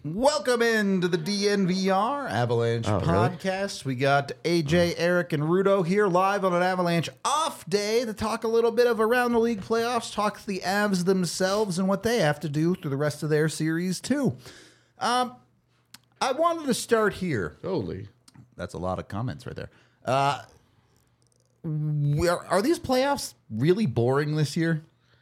Welcome into the DNVR Avalanche podcast. Really? We got AJ, Eric, and Rudo here live on an Avalanche off day to talk a little bit of around the league playoffs, talk the Avs themselves and what they have to do through the rest of their series too. I wanted to start here. Holy. That's a lot of comments right there. Are these playoffs really boring this year?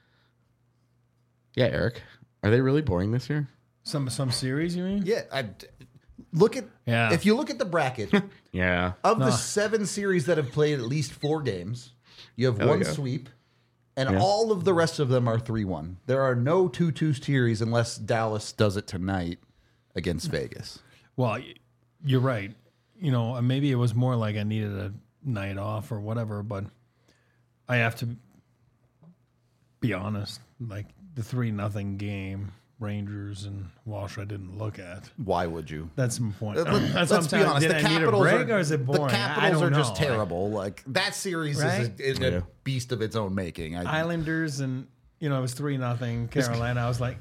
Yeah, Eric. Are they really boring this year? Some series, you mean? Yeah. If you look at the bracket, yeah. Of the 7 series that have played at least 4 games, you have one sweep, and all of the rest of them are 3-1. There are no 2-2 series unless Dallas does it tonight against Vegas. Well, you're right. You know, maybe it was more like I needed a night off or whatever, but I have to be honest. Like the 3-0 game, Rangers and Walsh, I didn't look at. Why would you? That's my point. Let's be honest. Did I need a break or is it boring? The Capitals are just terrible. Like that series is a beast of its own making. Islanders and it was 3-0 Carolina. I was like,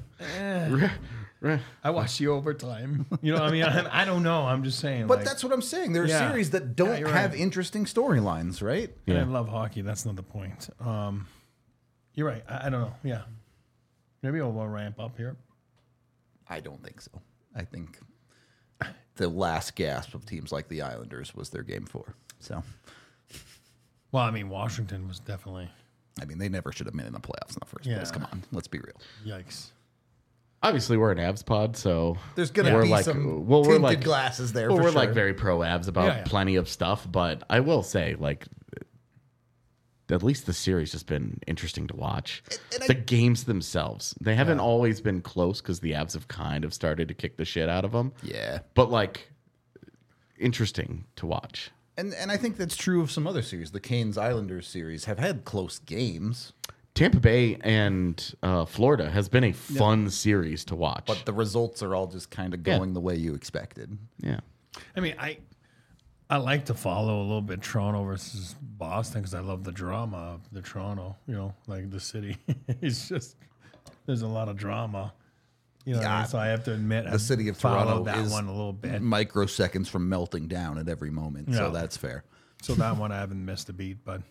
I watched the overtime. You know what I mean? I don't know. I'm just saying. But that's what I'm saying. There are series that don't have interesting storylines, right? Yeah. I love hockey. That's not the point. You're right. I don't know. Yeah. Maybe we'll ramp up here. I don't think so. I think the last gasp of teams like the Islanders was their game 4. So, well, I mean, Washington was definitely. I mean, they never should have been in the playoffs in the first place. Come on, let's be real. Yikes. Obviously, we're an Avs pod, so there's going to be some tinted glasses there. We're like very pro Avs about plenty of stuff, but I will say, like, at least the series has been interesting to watch. The games themselves, they haven't always been close because the Avs have kind of started to kick the shit out of them. Yeah. But, like, interesting to watch. And I think that's true of some other series. The Canes-Islanders series have had close games. Tampa Bay and Florida has been a fun series to watch. But the results are all just kind of going the way you expected. Yeah. I mean, I like to follow a little bit Toronto versus Boston because I love the drama of the Toronto, like the city. It's just, there's a lot of drama. So I have to admit, the city of Toronto that is one a little bit. Microseconds from melting down at every moment, so that's fair. So that one I haven't missed a beat, but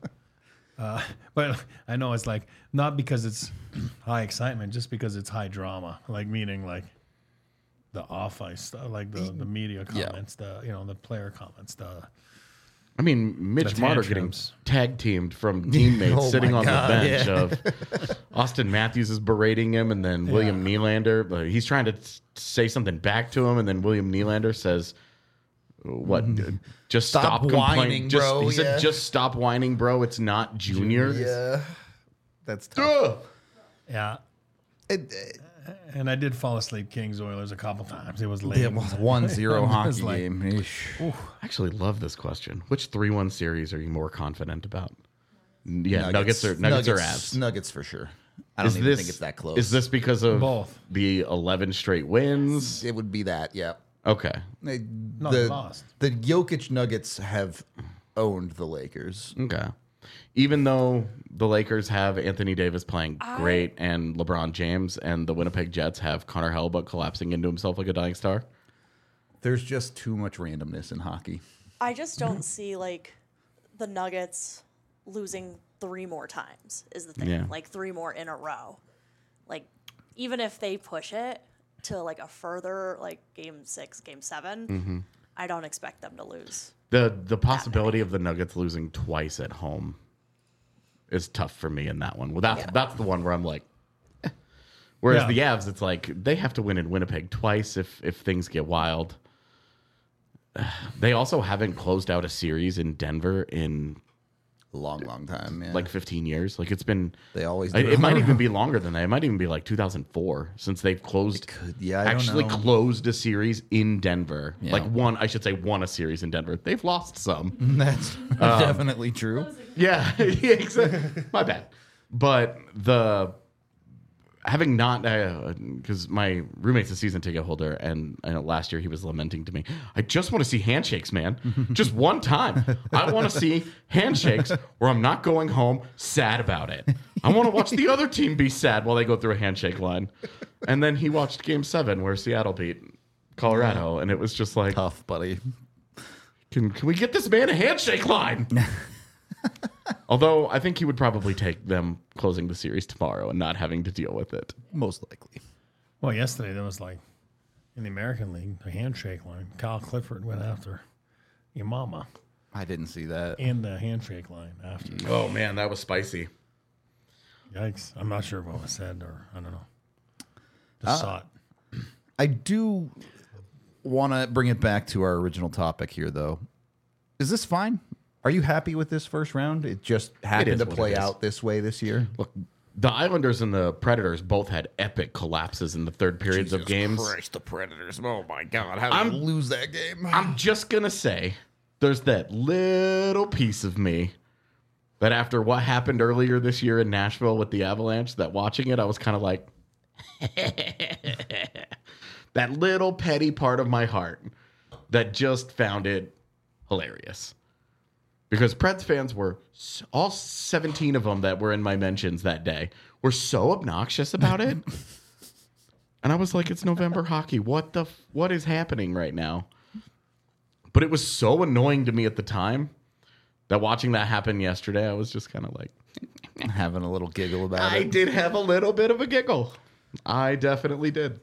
I know it's like, not because it's high excitement, just because it's high drama, like meaning like the off ice stuff, like the media comments, the player comments, I mean, Mitch Marner getting tag teamed from teammates sitting on the bench of Austin Matthews is berating him, and then William Nylander, he's trying to say something back to him, and then William Nylander says, "What? Just stop whining, bro." He said, "Just stop whining, bro. It's not junior." Yeah, that's tough. Yeah. And I did fall asleep Kings Oilers a couple times. It was late. It was 1-0 hockey game. I actually love this question. Which 3-1 series are you more confident about? Yeah, Nuggets or Avs? Nuggets for sure. I don't even think it's that close. Is this because of both the 11 straight wins? It would be that, yeah. Okay. They lost. The Jokic Nuggets have owned the Lakers. Okay. Even though the Lakers have Anthony Davis playing great and LeBron James, and the Winnipeg Jets have Connor Hellebuyck collapsing into himself like a dying star? There's just too much randomness in hockey. I just don't see, like, the Nuggets losing 3 more times is the thing. Yeah. Like, 3 more in a row. Like, even if they push it to, like, a further, like, game 6, game 7, I don't expect them to lose. The possibility of the Nuggets losing twice at home is tough for me in that one. Well, that's the one where I'm like, eh. Whereas the Avs, it's like they have to win in Winnipeg twice if things get wild. They also haven't closed out a series in Denver in a long time, yeah. Like 15 years. Like it's been. They always do. It might even be longer than that. It might even be like 2004 since they've closed. Actually closed a series in Denver. Yeah. Like won a series in Denver. They've lost some. That's definitely true. Yeah, exactly. My bad. But having not, because my roommate's a season ticket holder, and I know last year he was lamenting to me, I just want to see handshakes, man. Just one time. I want to see handshakes where I'm not going home sad about it. I want to watch the other team be sad while they go through a handshake line. And then he watched Game 7 where Seattle beat Colorado, and it was just like, Tough, buddy. Can we get this man a handshake line? Although I think he would probably take them closing the series tomorrow and not having to deal with it. Most likely. Well, yesterday there was in the American League, the handshake line. Kyle Clifford went after your mama I didn't see that. in the handshake line after. Oh, man, that was spicy. Yikes. I'm not sure what was said, or I don't know. Just saw it. I do want to bring it back to our original topic here, though. Is this fine? Are you happy with this first round? It just happened to play out this way this year. Look, the Islanders and the Predators both had epic collapses in the third periods of games. Christ, the Predators. Oh, my God. How did you lose that game? I'm just going to say there's that little piece of me that after what happened earlier this year in Nashville with the Avalanche, that watching it, I was kind of like, that little petty part of my heart that just found it hilarious. Because Preds fans were, all 17 of them that were in my mentions that day, were so obnoxious about it. And I was like, it's November hockey. What is happening right now? But it was so annoying to me at the time that watching that happen yesterday, I was just kind of like... having a little giggle about it. I did have a little bit of a giggle. I definitely did.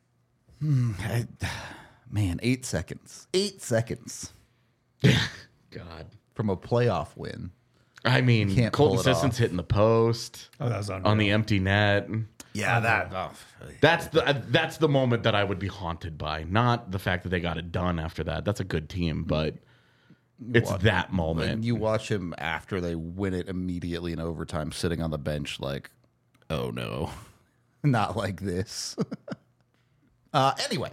Man, 8 seconds. 8 seconds. God. From a playoff win. I mean, Can't pull Colton it Sisson's off. hitting the post Oh, that was unreal. on the empty net. Yeah, That's the moment that I would be haunted by. Not the fact that they got it done after that. That's a good team, but it's that moment. And you watch him after they win it immediately in overtime, sitting on the bench like, oh no, not like this. Anyway,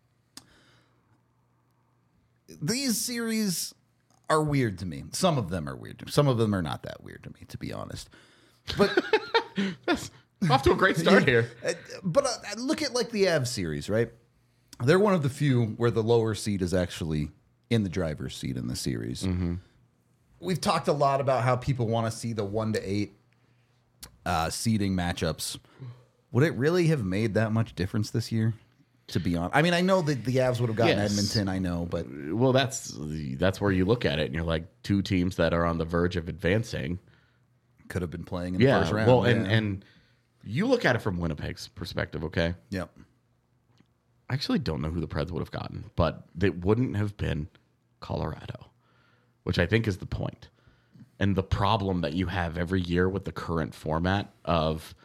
these series are weird to me. Some of them are weird to me. Some of them are not that weird to me, to be honest. But Off to a great start here. But look at like the Avs series, right? They're one of the few where the lower seed is actually in the driver's seat in the series. Mm-hmm. We've talked a lot about how people want to see the 1-8 seeding matchups. Would it really have made that much difference this year? To be honest, I mean, I know that the Avs would have gotten Edmonton. I know, but Well, that's where you look at it and you're like, two teams that are on the verge of advancing. could have been playing in the first round. Well, and you look at it from Winnipeg's perspective, okay? Yep. I actually don't know who the Preds would have gotten, but it wouldn't have been Colorado, which I think is the point. And the problem that you have every year with the current format of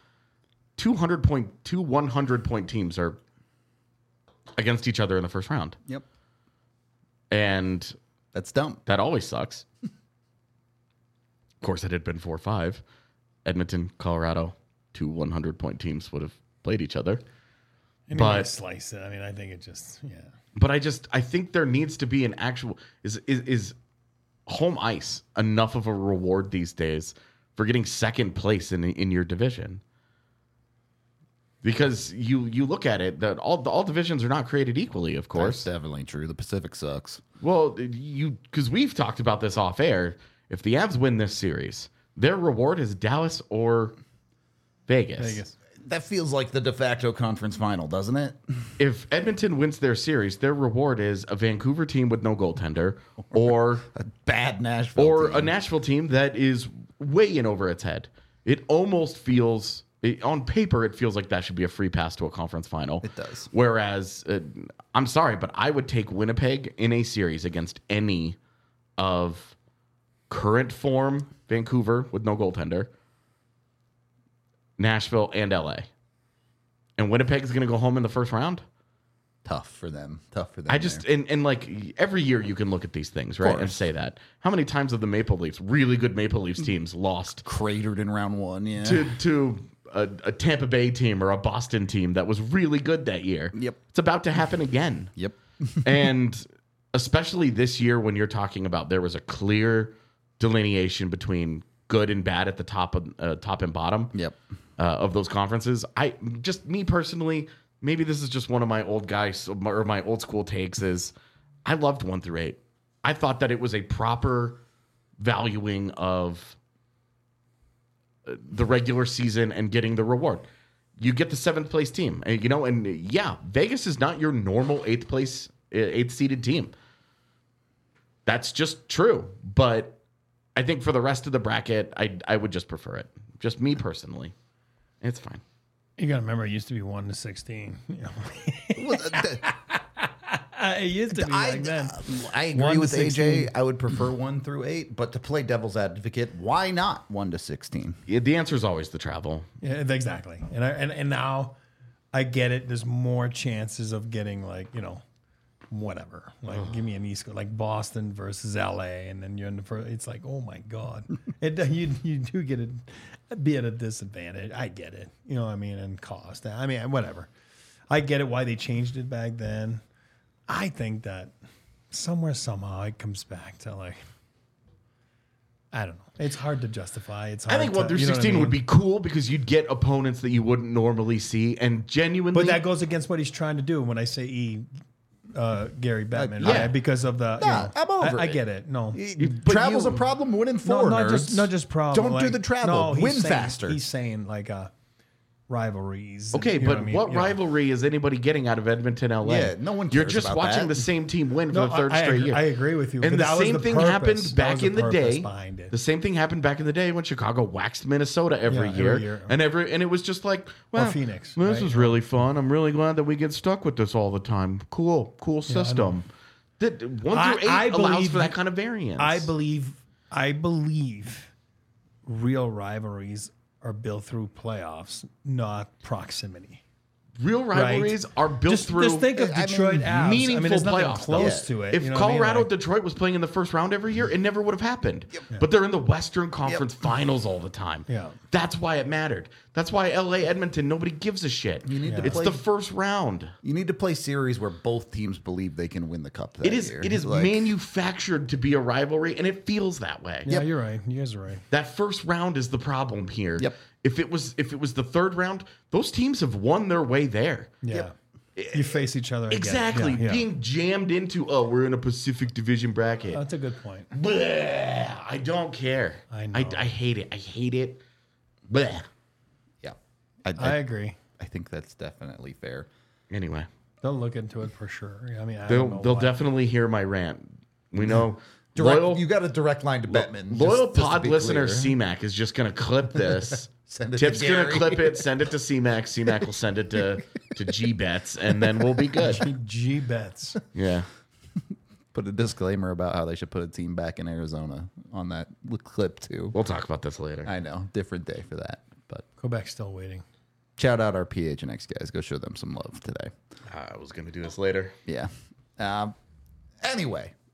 100-point teams are against each other in the first round. Yep. And That's dumb. that always sucks. Of course, it had been 4-5. Edmonton, Colorado, 2 100-point teams would have played each other. And But- you might slice it. I mean, I think it just, yeah. But I think there needs to be an actual is home ice enough of a reward these days for getting second place in your division? Because you look at it, that all divisions are not created equally, of course. That's definitely true. The Pacific sucks. Well, because we've talked about this off air. If the Avs win this series, their reward is Dallas or Vegas. That feels like the de facto conference final, doesn't it? If Edmonton wins their series, their reward is a Vancouver team with no goaltender, or A bad Nashville or team. a Nashville team that is way in over its head. It almost feels, on paper, it feels like that should be a free pass to a conference final. It does. Whereas, I'm sorry, but I would take Winnipeg in a series against any of current form Vancouver with no goaltender, Nashville, and LA. And Winnipeg is going to go home in the first round. Tough for them. I just and like every year you can look at these things, right, and say that. How many times have the Maple Leafs, really good Maple Leafs teams, lost cratered in round one, yeah. to a Tampa Bay team or a Boston team that was really good that year? Yep. It's about to happen again. Yep. And especially this year when you're talking about there was a clear delineation between good and bad at the top and bottom. Yep. Of those conferences. Me personally, maybe this is just one of my old guys or my old school takes is I loved 1 through 8. I thought that it was a proper valuing of the regular season and getting the reward. You get the 7th place team, and Vegas is not your normal 8th seeded team. That's just true. But I think for the rest of the bracket, I would just prefer it. Just me personally. It's fine. You got to remember, it used to be 1 to 16. It used to be like that. I agree with AJ. I would prefer 1 through 8, but to play devil's advocate, why not 1 to 16? Yeah, the answer is always the travel. Yeah, exactly. And now I get it. There's more chances of getting whatever. Give me an East Coast, like Boston versus LA, and then you're in the first. It's like, oh my God, you do get it. Be at a disadvantage. I get it. You know what I mean? And cost. I mean, whatever. I get it why they changed it back then. I think that somehow it comes back to I don't know. It's hard to justify. It's hard. I think 1 through 16 would be cool because you'd get opponents that you wouldn't normally see, and genuinely. But that goes against what he's trying to do. When I say Gary Bettman, yeah. right? Because of the. I'm over I it. get it. No, Travel's a problem. Winning 4, not just problem. Don't do the travel. Win saying, faster. He's saying rivalries. Okay, but what rivalry is anybody getting out of Edmonton, LA? Yeah, no one cares You're just about watching that. the same team win for the third straight year. I agree with you. And the same thing happened back in the day. Behind The same thing happened back in the day when Chicago waxed Minnesota every year. And it was just like, well, Phoenix. This is really fun. I'm really glad that we get stuck with this all the time. Cool system. That 1 through 8 allows for that kind of variance. I believe real rivalries are built through playoffs, not proximity. Real rivalries are built through. Just think of Detroit Avs. Meaningful there's nothing playoffs. Close to it. If Colorado Detroit was playing in the first round every year, it never would have happened. Yep. But they're in the Western Conference Finals all the time. Yeah. That's why it mattered. That's why LA Edmonton, nobody gives a shit. It's the first round. You need to play series where both teams believe they can win the cup that year. It is manufactured to be a rivalry, and it feels that way. Yeah, you're right. You guys are right. That first round is the problem here. Yep. If it was the third round, those teams have won their way there. Yeah. Yep. You face each other again. Exactly. Yeah. Being jammed into, we're in a Pacific Division bracket. That's a good point. Bleh, I don't care. I know. I hate it. I hate it. Bleh. Yeah. I agree. I think that's definitely fair. Anyway. They'll look into it for sure. I mean, they'll definitely hear my rant. We know. You got a direct line to Bettman. Loyal pod listener CMAC is just going to clip this. Send it Tip's to going Gary. to clip it, send it to CMAC. CMAC will send it to G-Bets, and then we'll be good. G-Bets. Yeah. Put a disclaimer about how they should put a team back in Arizona on that clip, too. We'll talk about this later. I know. Different day for that. But Quebec's still waiting. shout out our PHNX guys. Go show them some love today. I was going to do this later. Yeah. Anyway.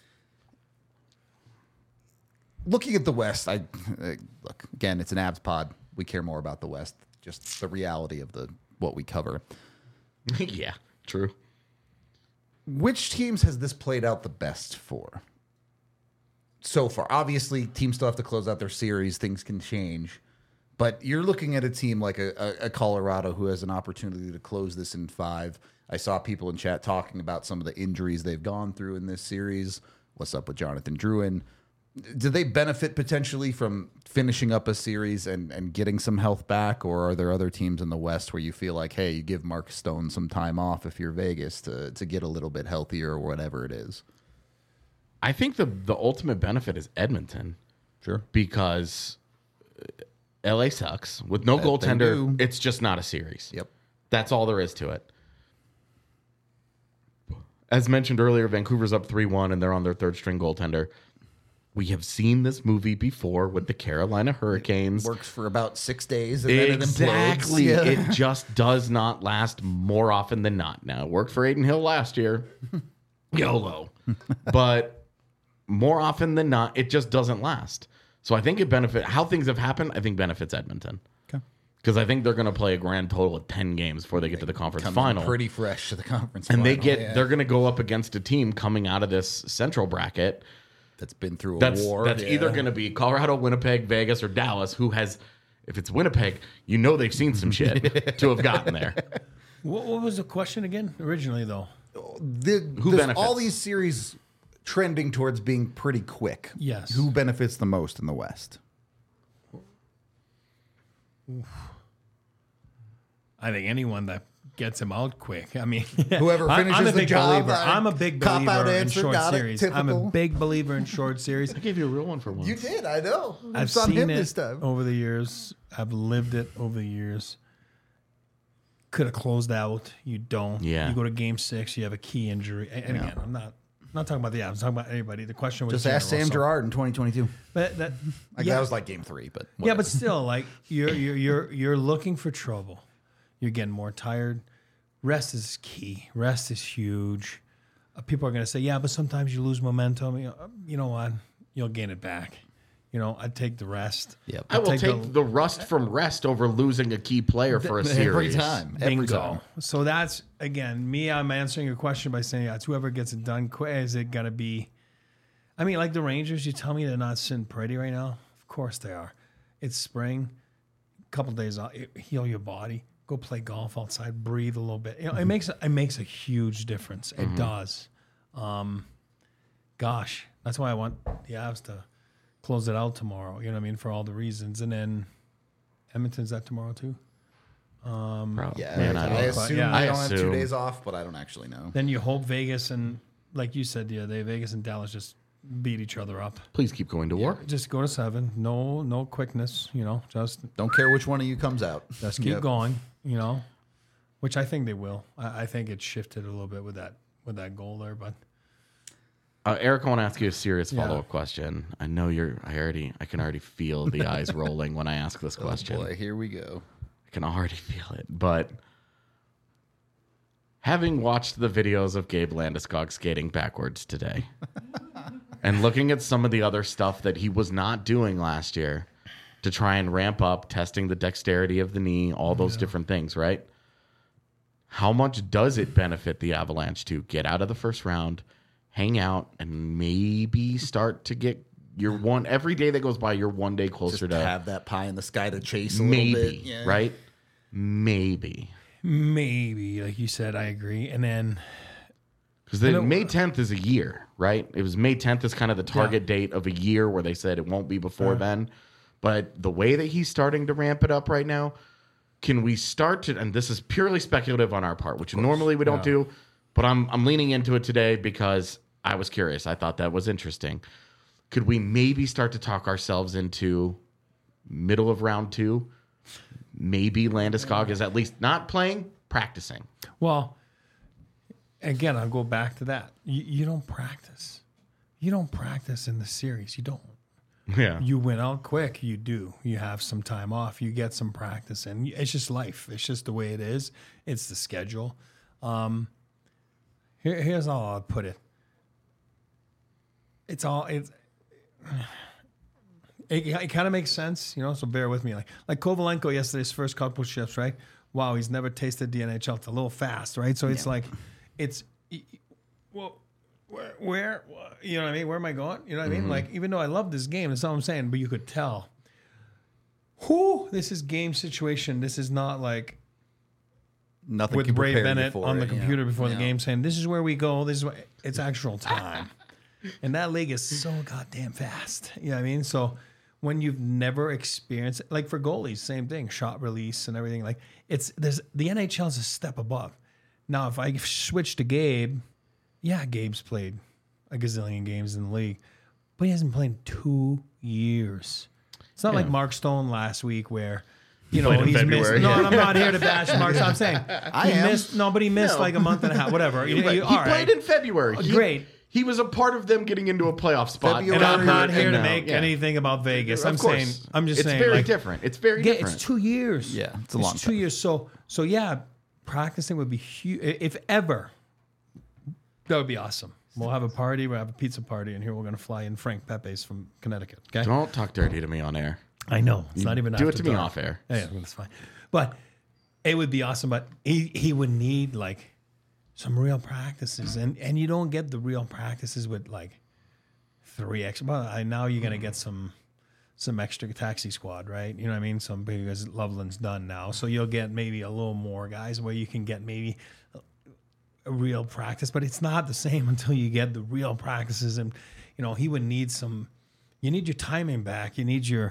Looking at the West, look, again, it's an abs pod. We care more about the West, just the reality of what we cover. Yeah, true. Which teams has this played out the best for so far? Obviously, teams still have to close out their series. Things can change. But you're looking at a team like a Colorado who has an opportunity to close this in 5. I saw people in chat talking about some of the injuries they've gone through in this series. What's up with Jonathan Drouin? Do they benefit potentially from finishing up a series and getting some health back? Or are there other teams in the West where you feel like, hey, you give Mark Stone some time off if you're Vegas to get a little bit healthier or whatever it is? I think the ultimate benefit is Edmonton. Sure. Because LA sucks. With no goaltender, it's just not a series. Yep. That's all there is to it. As mentioned earlier, Vancouver's up 3-1, and they're on their third string goaltender. We have seen this movie before with the Carolina Hurricanes. It works for about 6 days. And Exactly. Then it implodes. It just does not last more often than not. Now, it worked for Aiden Hill last year. YOLO. But more often than not, it just doesn't last. So I think how things have happened, I think benefits Edmonton. Okay. Because I think they're going to play a grand total of 10 games before they get to the conference final. Pretty fresh to the conference and final. they're going to go up against a team coming out of this central bracket that's been through a That's war. That's either going to be Colorado, Winnipeg, Vegas, or Dallas. Who has? If it's Winnipeg, you know they've seen some shit to have gotten there. What was the question again originally, though? Who benefits? All these series trending towards being pretty quick. Yes. Who benefits the most in the West? I think anyone that gets him out quick. I mean, Whoever finishes I'm a the big job. believer. I'm a big Cop-out believer in answer, short got it, series. I'm a typical. big believer in short series. I gave you a real one for once. You did, I know. I've It's on seen him it this time. over the years. I've lived it over the years. Could have closed out. You don't. Yeah. You go to game 6. You have a key injury. And again, I'm not talking about the Avs. I'm talking about anybody. The question was Just ask Sam Girard in 2022. But that, That was like game 3, but yeah, but still, like you're looking for trouble. You're getting more tired. Rest is key. Rest is huge. People are going to say, yeah, but sometimes you lose momentum. You know what? You'll gain it back. I'd take the rest. Yep. I will take the rust from rest over losing a key player for a series. every time. Every Bingo. time. So that's, again, I'm answering your question by saying it's whoever gets it done quick. Is it going to be, I mean, like the Rangers, you tell me they're not sitting pretty right now? Of course they are. It's spring. A couple days off. Heal your body. Go play golf outside. Breathe a little bit. It makes a huge difference. It does. Gosh, that's why I want the Avs to close it out tomorrow. You know what I mean? For all the reasons. And then Edmonton's that tomorrow too? Yeah, Man, I assume yeah. I don't have 2 assume. days off, but I don't actually know. Then you hope Vegas and, like you said the other day, Vegas and Dallas just beat each other up. Please keep going to war. Just go to 7. No quickness. Just Don't care which one of you comes out. keep Yep. going. Which I think they will. I think it shifted a little bit with that goal there, but Eric, I want to ask you a serious Yeah. follow-up question. I know I can already feel the eyes rolling when I ask this question. Boy, here we go. I can already feel it. But having watched the videos of Gabe Landeskog skating backwards today and looking at some of the other stuff that he was not doing last year to try and ramp up, testing the dexterity of the knee, all those different things, right? How much does it benefit the Avalanche to get out of the first round, hang out, and maybe start to get every day that goes by, you're one day closer Just to have that pie in the sky to chase a maybe, little bit. Yeah. right? Maybe. maybe, like you said, I agree. And then Because May 10th is a year, right? It was May 10th is kind of the target date of a year where they said it won't be before then. But the way that he's starting to ramp it up right now, can we start to, and this is purely speculative on our part, which normally we don't do, but I'm leaning into it today because I was curious. I thought that was interesting. Could we maybe start to talk ourselves into middle of round 2? Maybe Landeskog is at least not playing, practicing. Well, again, I'll go back to that. You don't practice. You don't practice in the series. You don't. Yeah. You went out quick. You do. You have some time off. You get some practice, and it's just life. It's just the way it is. It's the schedule. Here's how I'll put it. It kind of makes sense, so bear with me. Like Kovalenko yesterday's first couple shifts, right? Wow, he's never tasted the NHL. It's a little fast, right? So it's well, where, you know what I mean? Where am I going? You know what I mean? Like, even though I love this game, that's all I'm saying, but you could tell. This is game situation. This is not like Nothing with can Ray prepare you Bennett for on the it, computer before the Yeah. game saying, this is where we go. This is what it's actual time. And that league is so goddamn fast. You know what I mean? So when you've never experienced it, like for goalies, same thing, shot release and everything. Like the NHL is a step above. Now, if I switch to Gabe, Gabe's played a gazillion games in the league, but he hasn't played in 2 years. It's not like Mark Stone last week where, played in he's February. missed. No, I'm not here to bash Mark Stone. I'm saying I am. he missed like a month and a half, whatever. He all played right. in February. Great. He was a part of them getting into a playoff spot. February. And I'm not here to now- make anything about Vegas. Of I'm course. saying, It's saying, very like, different. It's very different. It's 2 years. Yeah, it's a long 2 time. years. So practicing would be huge. If ever, that would be awesome. We'll have a party. We'll have a pizza party, and here we're going to fly in Frank Pepe's from Connecticut. Okay. Don't talk dirty to me on air. I know it's not even. Do it after to me dark. off air. Yeah, that's fine. But it would be awesome. But he would need like some real practices, and you don't get the real practices with like 3 extra. Well, now you're gonna get some extra taxi squad, right? You know what I mean? Because Loveland's done now, so you'll get maybe a little more guys where you can get maybe a real practice, but it's not the same until you get the real practices. And he would need some. You need your timing back. You need your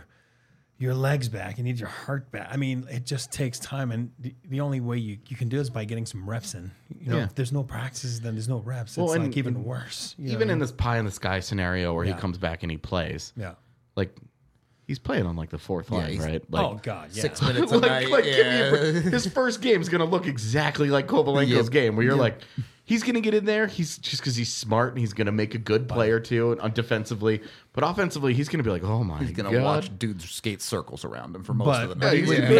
legs back. You need your heart back. I mean, it just takes time, and the only way you can do it is by getting some reps in. If there's no practices, then there's no reps. It's like even worse. Even in this pie in the sky scenario where he comes back and he plays, like he's playing on like the fourth line, right? Like, oh God, yeah. 6 minutes a night. His first game is going to look exactly like Kovalenko's game, where you're like, he's going to get in there. He's just because he's smart and he's going to make a good play or two defensively, but offensively, he's going to be like, oh my God. He's going to watch dudes skate circles around him for most of the night.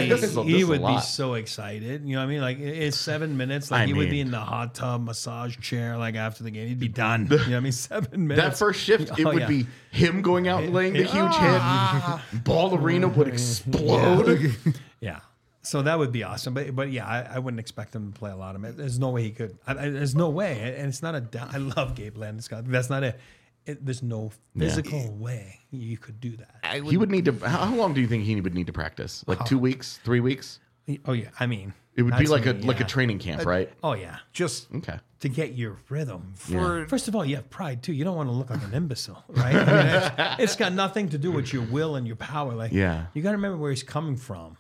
He would be so excited. You know what I mean? Like it's 7 minutes. Like he would be in the hot tub massage chair. Like after the game, he'd be done. You know what I mean? 7 minutes. That first shift, it would be him going out and laying the huge hit. Ball arena would explode. Yeah. So that would be awesome. But yeah, I wouldn't expect him to play a lot of it. There's no way he could. There's no way. And it's not I love Gabe Landeskog. That's not it. There's no physical way you could do that. He would need to. How long do you think he would need to practice? Like 2 weeks, 3 weeks? Oh yeah. I mean, it would be like a training camp, right? Oh yeah. Just to get your rhythm. First of all, you have pride too. You don't want to look like an imbecile, right? I mean, it's got nothing to do with your will and your power. Like, you got to remember where he's coming from.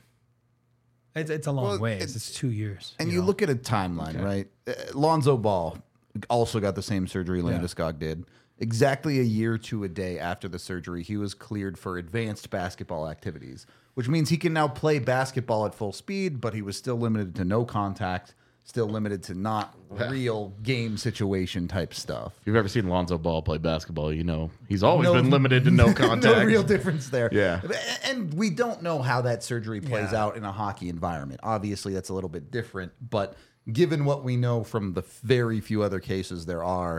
It's a long way. It's 2 years. And you look at a timeline, right? Lonzo Ball also got the same surgery Landeskog did. Exactly a year to a day after the surgery, he was cleared for advanced basketball activities, which means he can now play basketball at full speed, but he was still limited to no contact, still limited to not real game situation type stuff. If you've ever seen Lonzo Ball play basketball, he's always been limited to no contact. No real difference there. Yeah. And we don't know how that surgery plays out in a hockey environment. Obviously, that's a little bit different, but given what we know from the very few other cases there are,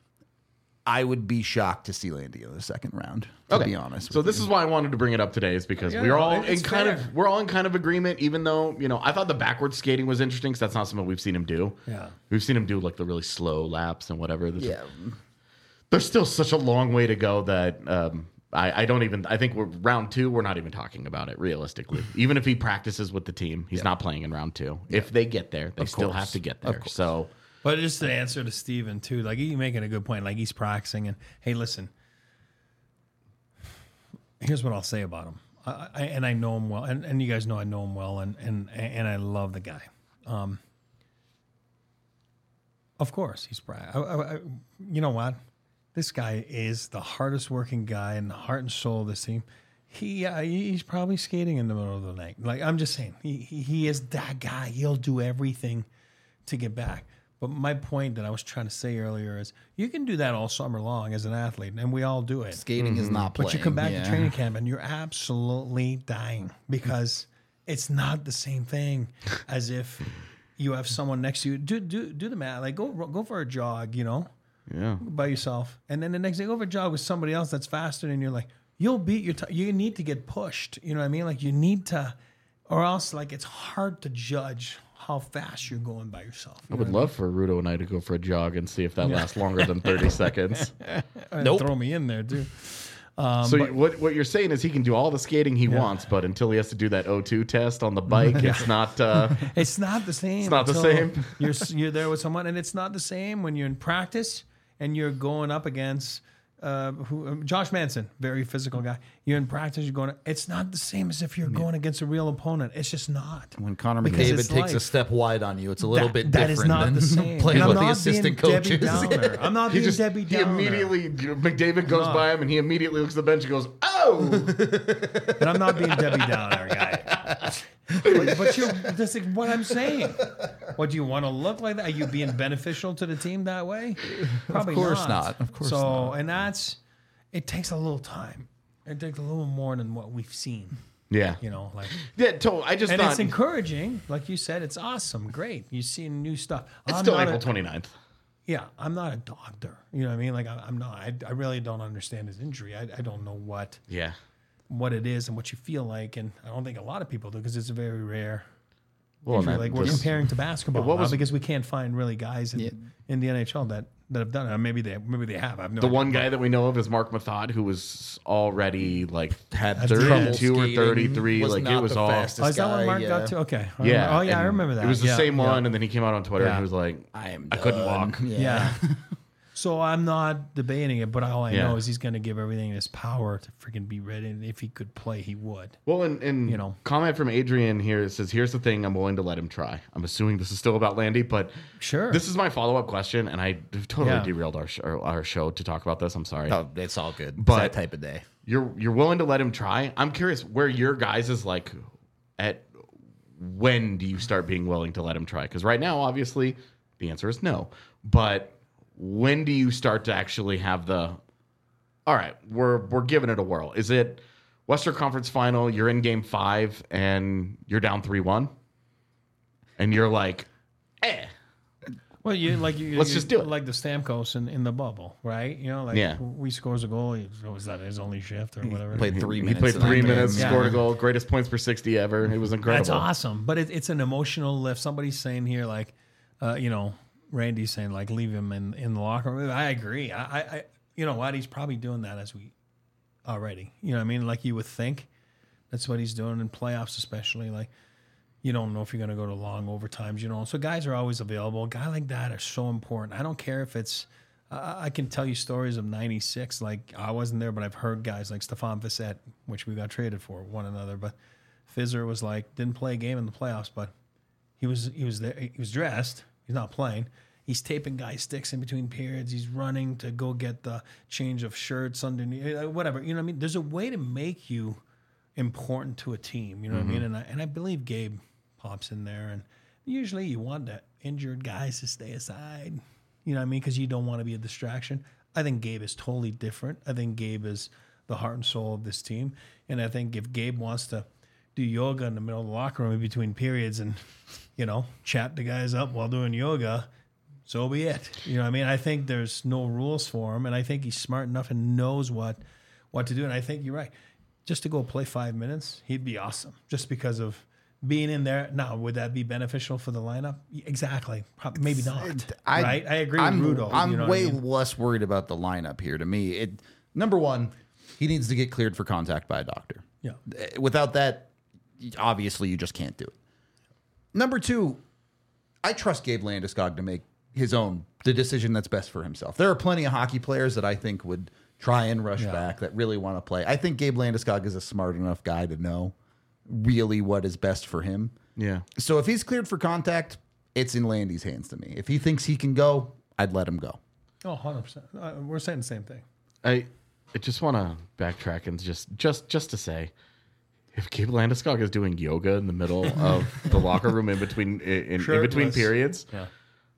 I would be shocked to see Landy in the second round, to be honest. So this is why I wanted to bring it up today, is because we're all in kind of agreement. Even though I thought the backwards skating was interesting, because that's not something we've seen him do. Yeah, we've seen him do like the really slow laps and whatever. There's still such a long way to go that I don't even. I think we're round 2. We're not even talking about it realistically. Even if he practices with the team, he's not playing in round 2. Yeah. If they get there, they still have to get there. So. But just to answer to Steven, too, like he's making a good point. Like he's practicing, and hey, listen, here's what I'll say about him. I know him well, and you guys know I know him well, and I love the guy. Of course, he's you know what? This guy is the hardest working guy and the heart and soul of this team. He's probably skating in the middle of the night. Like I'm just saying, he is that guy. He'll do everything to get back. But my point that I was trying to say earlier is you can do that all summer long as an athlete, and we all do it. Skating is not playing. But you come back to training camp, and you're absolutely dying because it's not the same thing as if you have someone next to you. Do the math. Like go for a jog, by yourself, and then the next day go for a jog with somebody else that's faster, and you're like, you'll beat your time. You need to get pushed. You know what I mean? Like you need to, or else like it's hard to judge how fast you're going by yourself. I would love for Rudo and I to go for a jog and see if that lasts longer than 30 seconds. Nope. Throw me in there too. So what you're saying is he can do all the skating he wants, but until he has to do that O2 test on the bike, it's not. It's not the same. It's not the same. You're there with someone, and it's not the same when you're in practice and you're going up against Josh Manson, very physical guy. You're in practice, you're going. It's not the same as if you're going against a real opponent. It's just not. When Connor McDavid takes a step wide on you, it's a little bit different. That is not the same. Playing with the assistant coaches. I'm not being Debbie Downer. He immediately, McDavid goes by him, and he immediately looks at the bench and goes, "Oh!" And I'm not being Debbie Downer, guy. But you're that's like what I'm saying. What do you want to look like that? Are you being beneficial to the team that way? Probably of course not. Of course not. And it takes a little time. It takes a little more than what we've seen. Yeah. It's encouraging. Like you said, it's awesome. Great. You're seeing new stuff. It's still April 29th. Yeah. I'm not a doctor. You know what I mean? Like I'm not. I really don't understand his injury. I don't know what it is and what you feel like. And I don't think a lot of people do because it's very rare Well, Injury, like we're comparing to basketball what was- because we can't find really guys in the NHL that have done it. Maybe they have. I've no The idea. one guy that we know of is Mark Mathod, who was already like Had 32 or skating, 33. was Like not it was the all. fastest Oh, is that guy, what Mark yeah. got to? Okay. Yeah. Oh, yeah, I and remember that. It was the Yeah, same yeah. one, and then he came out on Twitter and Yeah. he was like, I couldn't walk. Yeah. So I'm not debating it, but all I Yeah. know is he's going to give everything in his power to freaking be ready. And if he could play, he would. Well, and You know. comment from Adrian here says, "Here's the thing, I'm willing to let him try." I'm assuming this is still about Landy, but Sure. this is my follow up question, and I totally Yeah. derailed our show to talk about this. I'm sorry. Oh, it's all good. But- It's that type of day. You're willing to let him try. I'm curious where your guys is like at. When do you start being willing to let him try? Because right now, obviously, the answer is no. But when do you start to actually have the? All right, we're giving it a whirl. Is it Western Conference Final? You're in Game 5 and you're down 3-1, and you're like, Well, Let's just do it. Like the Stamkos in the bubble, right? You know, like Yeah. we scores a goal. Was that his only shift or whatever? Played 3 minutes. He played in that 3 game. minutes, Yeah. scored a goal, greatest points per 60 ever. It was incredible. That's awesome, but it's an emotional lift. Somebody's saying here, like, Randy's saying, like, leave him in the locker room. I agree. I you know what? He's probably doing that as we already. You know what I mean? Like you would think that's what he's doing in playoffs, especially. Like, you don't know if you're going to go to long overtimes, you know. So guys are always available. A guy like that are so important. I don't care if it's I can tell you stories of 96. Like, I wasn't there, but I've heard guys like Stefan Fissette, which we got traded for one another. But Fizzer was like, didn't play a game in the playoffs, but he was there. He was dressed. He's not playing. He's taping guys' sticks in between periods. He's running to go get the change of shirts underneath, whatever. You know what I mean? There's a way to make you important to a team. You know what I mean? And I believe Gabe pops in there. And usually you want the injured guys to stay aside. You know what I mean? Because you don't want to be a distraction. I think Gabe is totally different. I think Gabe is the heart and soul of this team. And I think if Gabe wants to do yoga in the middle of the locker room in between periods and, chat the guys up while doing yoga, so be it. You know what I mean? I think there's no rules for him, and I think he's smart enough and knows what to do. And I think you're right. Just to go play 5 minutes, he'd be awesome. Just because of being in there. Now, would that be beneficial for the lineup? Exactly. Maybe not. Right? I agree with Rudo. I'm way less worried about the lineup here. To me, number one, he needs to get cleared for contact by a doctor. Yeah. Without that, obviously, you just can't do it. Number two, I trust Gabe Landeskog to make the decision that's best for himself. There are plenty of hockey players that I think would try and rush back that really want to play. I think Gabe Landeskog is a smart enough guy to know really what is best for him. Yeah. So if he's cleared for contact, it's in Landy's hands to me. If he thinks he can go, I'd let him go. Oh, 100%. We're saying the same thing. I just want to backtrack and just to say, if Gabe Landeskog is doing yoga in the middle of the locker room in between periods, Yeah.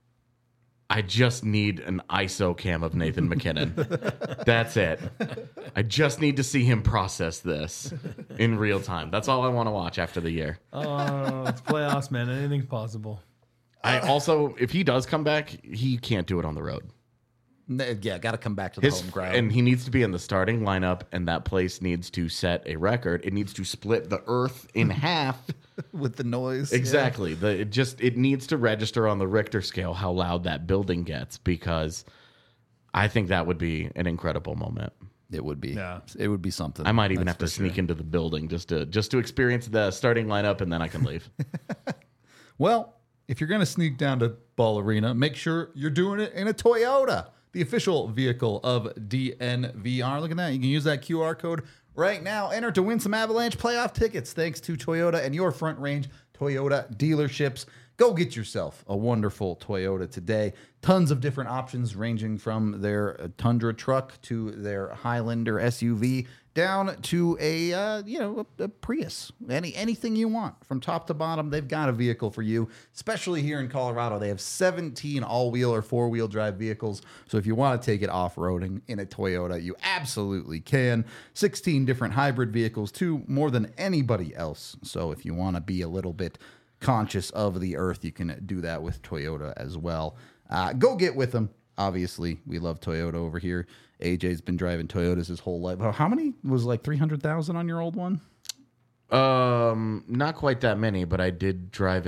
I just need an ISO cam of Nathan McKinnon. That's it. I just need to see him process this in real time. That's all I want to watch after the year. Oh, it's playoffs, man. Anything's possible. I also, if he does come back, he can't do it on the road. Yeah, got to come back to the home ground. And he needs to be in the starting lineup, and that place needs to set a record. It needs to split the earth in half. With the noise. Exactly. It needs to register on the Richter scale how loud that building gets, because I think that would be an incredible moment. It would be. Yeah. It would be something. I might even have to sneak into the building just to experience the starting lineup, and then I can leave. Well, if you're going to sneak down to Ball Arena, make sure you're doing it in a Toyota, the official vehicle of DNVR. Look at that. You can use that QR code right now. Enter to win some Avalanche playoff tickets thanks to Toyota and your Front Range Toyota dealerships. Go get yourself a wonderful Toyota today. Tons of different options ranging from their Tundra truck to their Highlander SUV down to a Prius. Anything you want from top to bottom, they've got a vehicle for you. Especially here in Colorado, they have 17 all-wheel or four-wheel drive vehicles. So if you want to take it off-roading in a Toyota, you absolutely can. 16 different hybrid vehicles too, more than anybody else. So if you want to be a little bit conscious of the earth, you can do that with Toyota as well. Go get with them. Obviously, we love Toyota over here. AJ's been driving Toyotas his whole life. How many was like 300,000 on your old one? Not quite that many, but I did drive it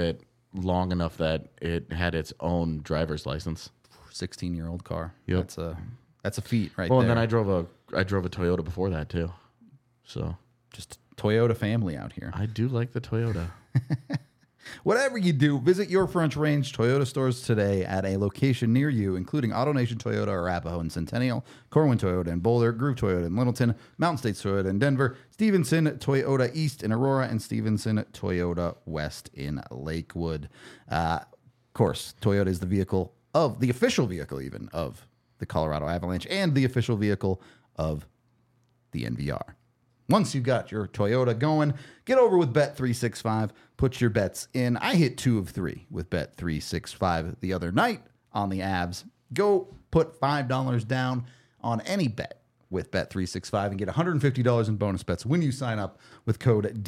long enough that it had its own driver's license. 16-year-old car. Yep. That's a feat right Well, there. and then I drove a Toyota before that too. So Just Toyota family out here. I do like the Toyota. Whatever you do, visit your French Range Toyota stores today at a location near you, including AutoNation Toyota, Arapahoe and Centennial, Corwin Toyota in Boulder, Groove Toyota in Littleton, Mountain States Toyota in Denver, Stevenson Toyota East in Aurora, and Stevenson Toyota West in Lakewood. Of course, Toyota is the official vehicle even of the Colorado Avalanche and the official vehicle of the NVR. Once you got your Toyota going, get over with Bet365. Put your bets in. I hit 2 of 3 with Bet365 the other night on the Avs. Go put $5 down on any bet with Bet365 and get $150 in bonus bets when you sign up with code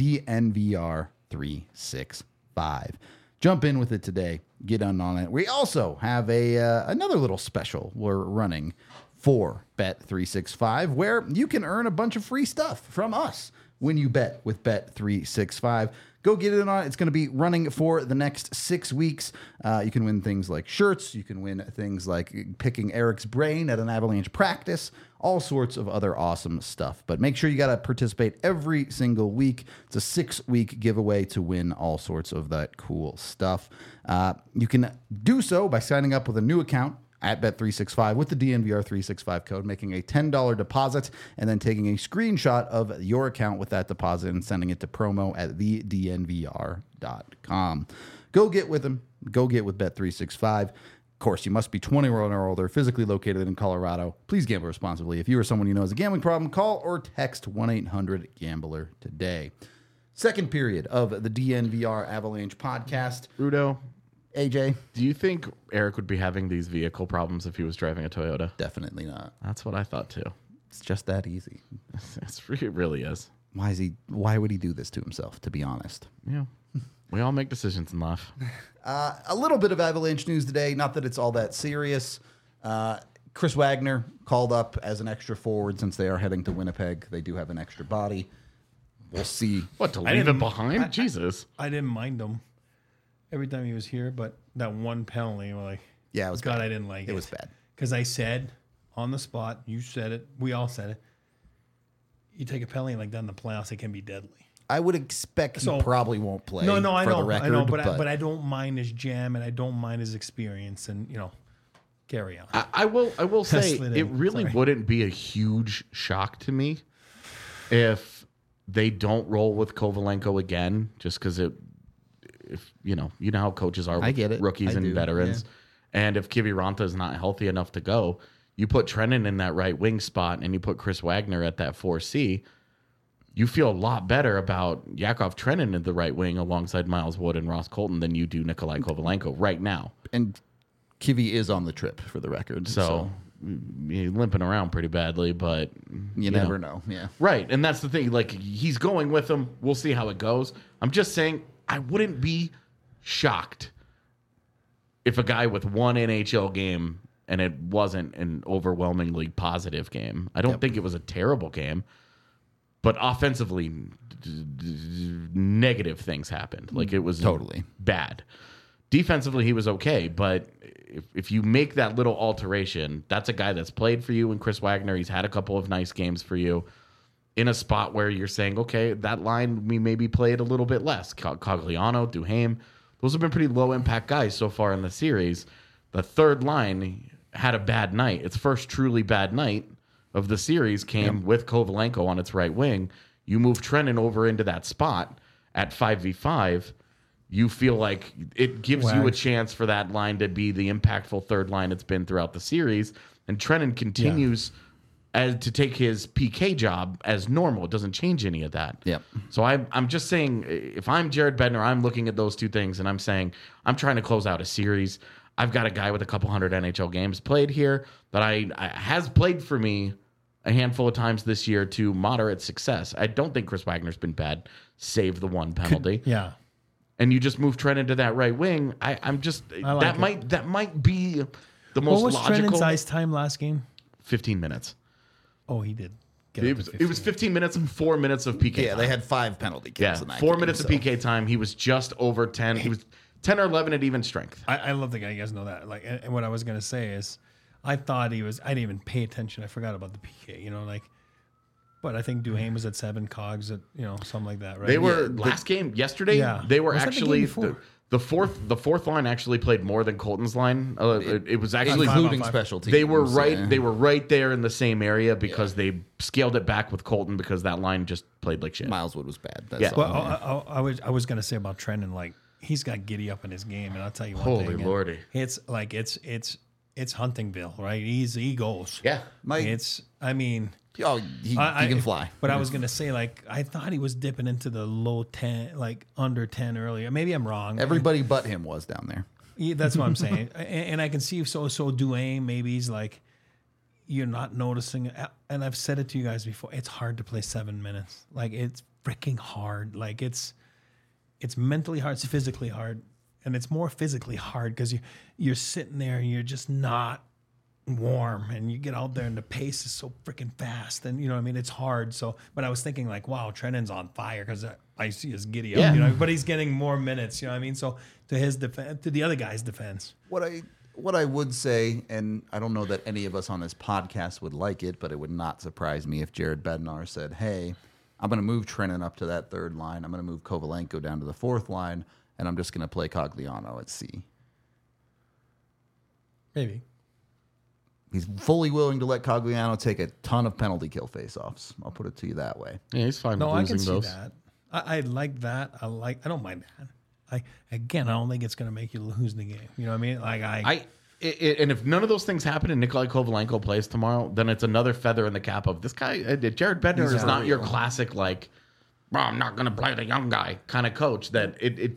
DNVR365. Jump in with it today. Get on it. We also have another little special we're running for Bet365, where you can earn a bunch of free stuff from us when you bet with Bet365. Go get it on. It's going to be running for the next 6 weeks. You can win things like shirts. You can win things like picking Eric's brain at an Avalanche practice, all sorts of other awesome stuff. But make sure you got to participate every single week. It's a 6-week giveaway to win all sorts of that cool stuff. You can do so by signing up with a new account at Bet365 with the DNVR365 code, making a $10 deposit, and then taking a screenshot of your account with that deposit and sending it to promo@thednvr.com. Go get with them. Go get with Bet365. Of course, you must be 21 or older, physically located in Colorado. Please gamble responsibly. If you or someone you know has a gambling problem, call or text 1-800-GAMBLER today. Second period of the DNVR Avalanche podcast. Rudo, AJ? do you think Eric would be having these vehicle problems if he was driving a Toyota? Definitely not. That's what I thought too. It's just that easy. It really is. Why would he do this to himself, to be honest? Yeah. We all make decisions in life. A little bit of Avalanche news today. Not that it's all that serious. Chris Wagner called up as an extra forward since they are heading to Winnipeg. They do have an extra body. We'll see. What, to leave him behind? Jesus. I didn't mind him every time he was here, but that one penalty, Yeah, it was God, bad. I didn't like it. It was bad. Because I said on the spot, you said it, we all said it, you take a penalty like that in the playoffs, it can be deadly. I would expect he probably won't play. No, I for know, the record, I know, but I don't mind his jam and I don't mind his experience, and carry on. I will say slid it in. really Sorry. wouldn't be a huge shock to me if they don't roll with Kovalenko again, just because if you know how coaches are with I get it. rookies I and do, veterans, and if Kiviranta is not healthy enough to go, you put Trennan in that right wing spot and you put Chris Wagner at that 4C. You feel a lot better about Yakov Trennan in the right wing alongside Miles Wood and Ross Colton than you do Nikolai Kovalenko right now. And Kivy is on the trip, for the record. So he's limping around pretty badly, but you never know. Yeah. Right. And that's the thing. Like, he's going with them. We'll see how it goes. I'm just saying, I wouldn't be shocked if a guy with one NHL game and it wasn't an overwhelmingly positive game. I don't think it was a terrible game, but offensively, negative things happened. Like, it was Totally bad. Defensively, he was okay, but if you make that little alteration, that's a guy that's played for you. And Chris Wagner, he's had a couple of nice games for you in a spot where you're saying, okay, that line we maybe played a little bit less. Cogliano, Duhaime, those have been pretty low impact guys so far in the series. The third line had a bad night. Its first truly bad night of the series came with Kovalenko on its right wing. You move Trennan over into that spot at 5v5. You feel like it gives you a chance for that line to be the impactful third line it's been throughout the series. And Trennan continues to take his PK job as normal. It doesn't change any of that. Yep. So I'm just saying, if I'm Jared Bednar, I'm looking at those two things and I'm saying, I'm trying to close out a series. I've got a guy with a couple hundred NHL games played here that I has played for me a handful of times this year to moderate success. I don't think Chris Wagner's been bad, save the one penalty. Yeah. And you just move Trent into that right wing. I'm just like that might be the most What was logical. Trennan's ice time last game? 15 minutes. Oh, he did. Get It up was, to it was 15 minutes and 4 minutes of PK. Yeah, time. they had 5 penalty kills. Yeah, in that 4 game, minutes so. of PK time. He was just over 10. He was 10 or 11 at even strength. I love the guy. You guys know that. Like, and what I was gonna say is, I thought he was. I didn't even pay attention. I forgot about the PK. But I think Duhaime was at 7, Cogs at something like that, right? They were game yesterday. Yeah. They were Was that the game actually before? the fourth line actually played more than Colton's line. It was actually including 5-on-5. special teams. They were right. Yeah. They were right there in the same area because they scaled it back with Colton because that line just played like shit. Miles Wood was bad. That's Yeah. all. Well, I was gonna say about Trenton, like he's got giddy up in his game, and I'll tell you one Holy thing. lordy. It's like it's Huntingville, right? He goes. Yeah. He can fly. But I was gonna say, like, I thought he was dipping into the low 10, like under 10 earlier. Maybe I'm wrong. Everybody but him was down there. Yeah, that's what I'm saying. And I can see so Duane, maybe he's like, you're not noticing it. And I've said it to you guys before. It's hard to play 7 minutes. Like, it's freaking hard. Like, it's mentally hard. It's physically hard. And it's more physically hard because you're sitting there and you're just not warm, and you get out there and the pace is so freaking fast, and it's hard. So, but I was thinking like, wow, Trennan's on fire because I see his giddy up, but he's getting more minutes, So to his defense, to the other guy's defense, What I would say, and I don't know that any of us on this podcast would like it, but it would not surprise me if Jared Bednar said, "Hey, I'm going to move Trennan up to that 3rd line. I'm going to move Kovalenko down to the 4th line, and I'm just going to play Cogliano at C." maybe. He's fully willing to let Cogliano take a ton of penalty kill faceoffs. I'll put it to you that way. Yeah, he's fine No, with I losing can see those. that. I like that. I don't mind that. I don't think it's going to make you lose the game. You know what I mean? Like And if none of those things happen and Nikolai Kovalenko plays tomorrow, then it's another feather in the cap of this guy. Jared Bednar is not your classic, like, I'm not going to play the young guy kind of coach. That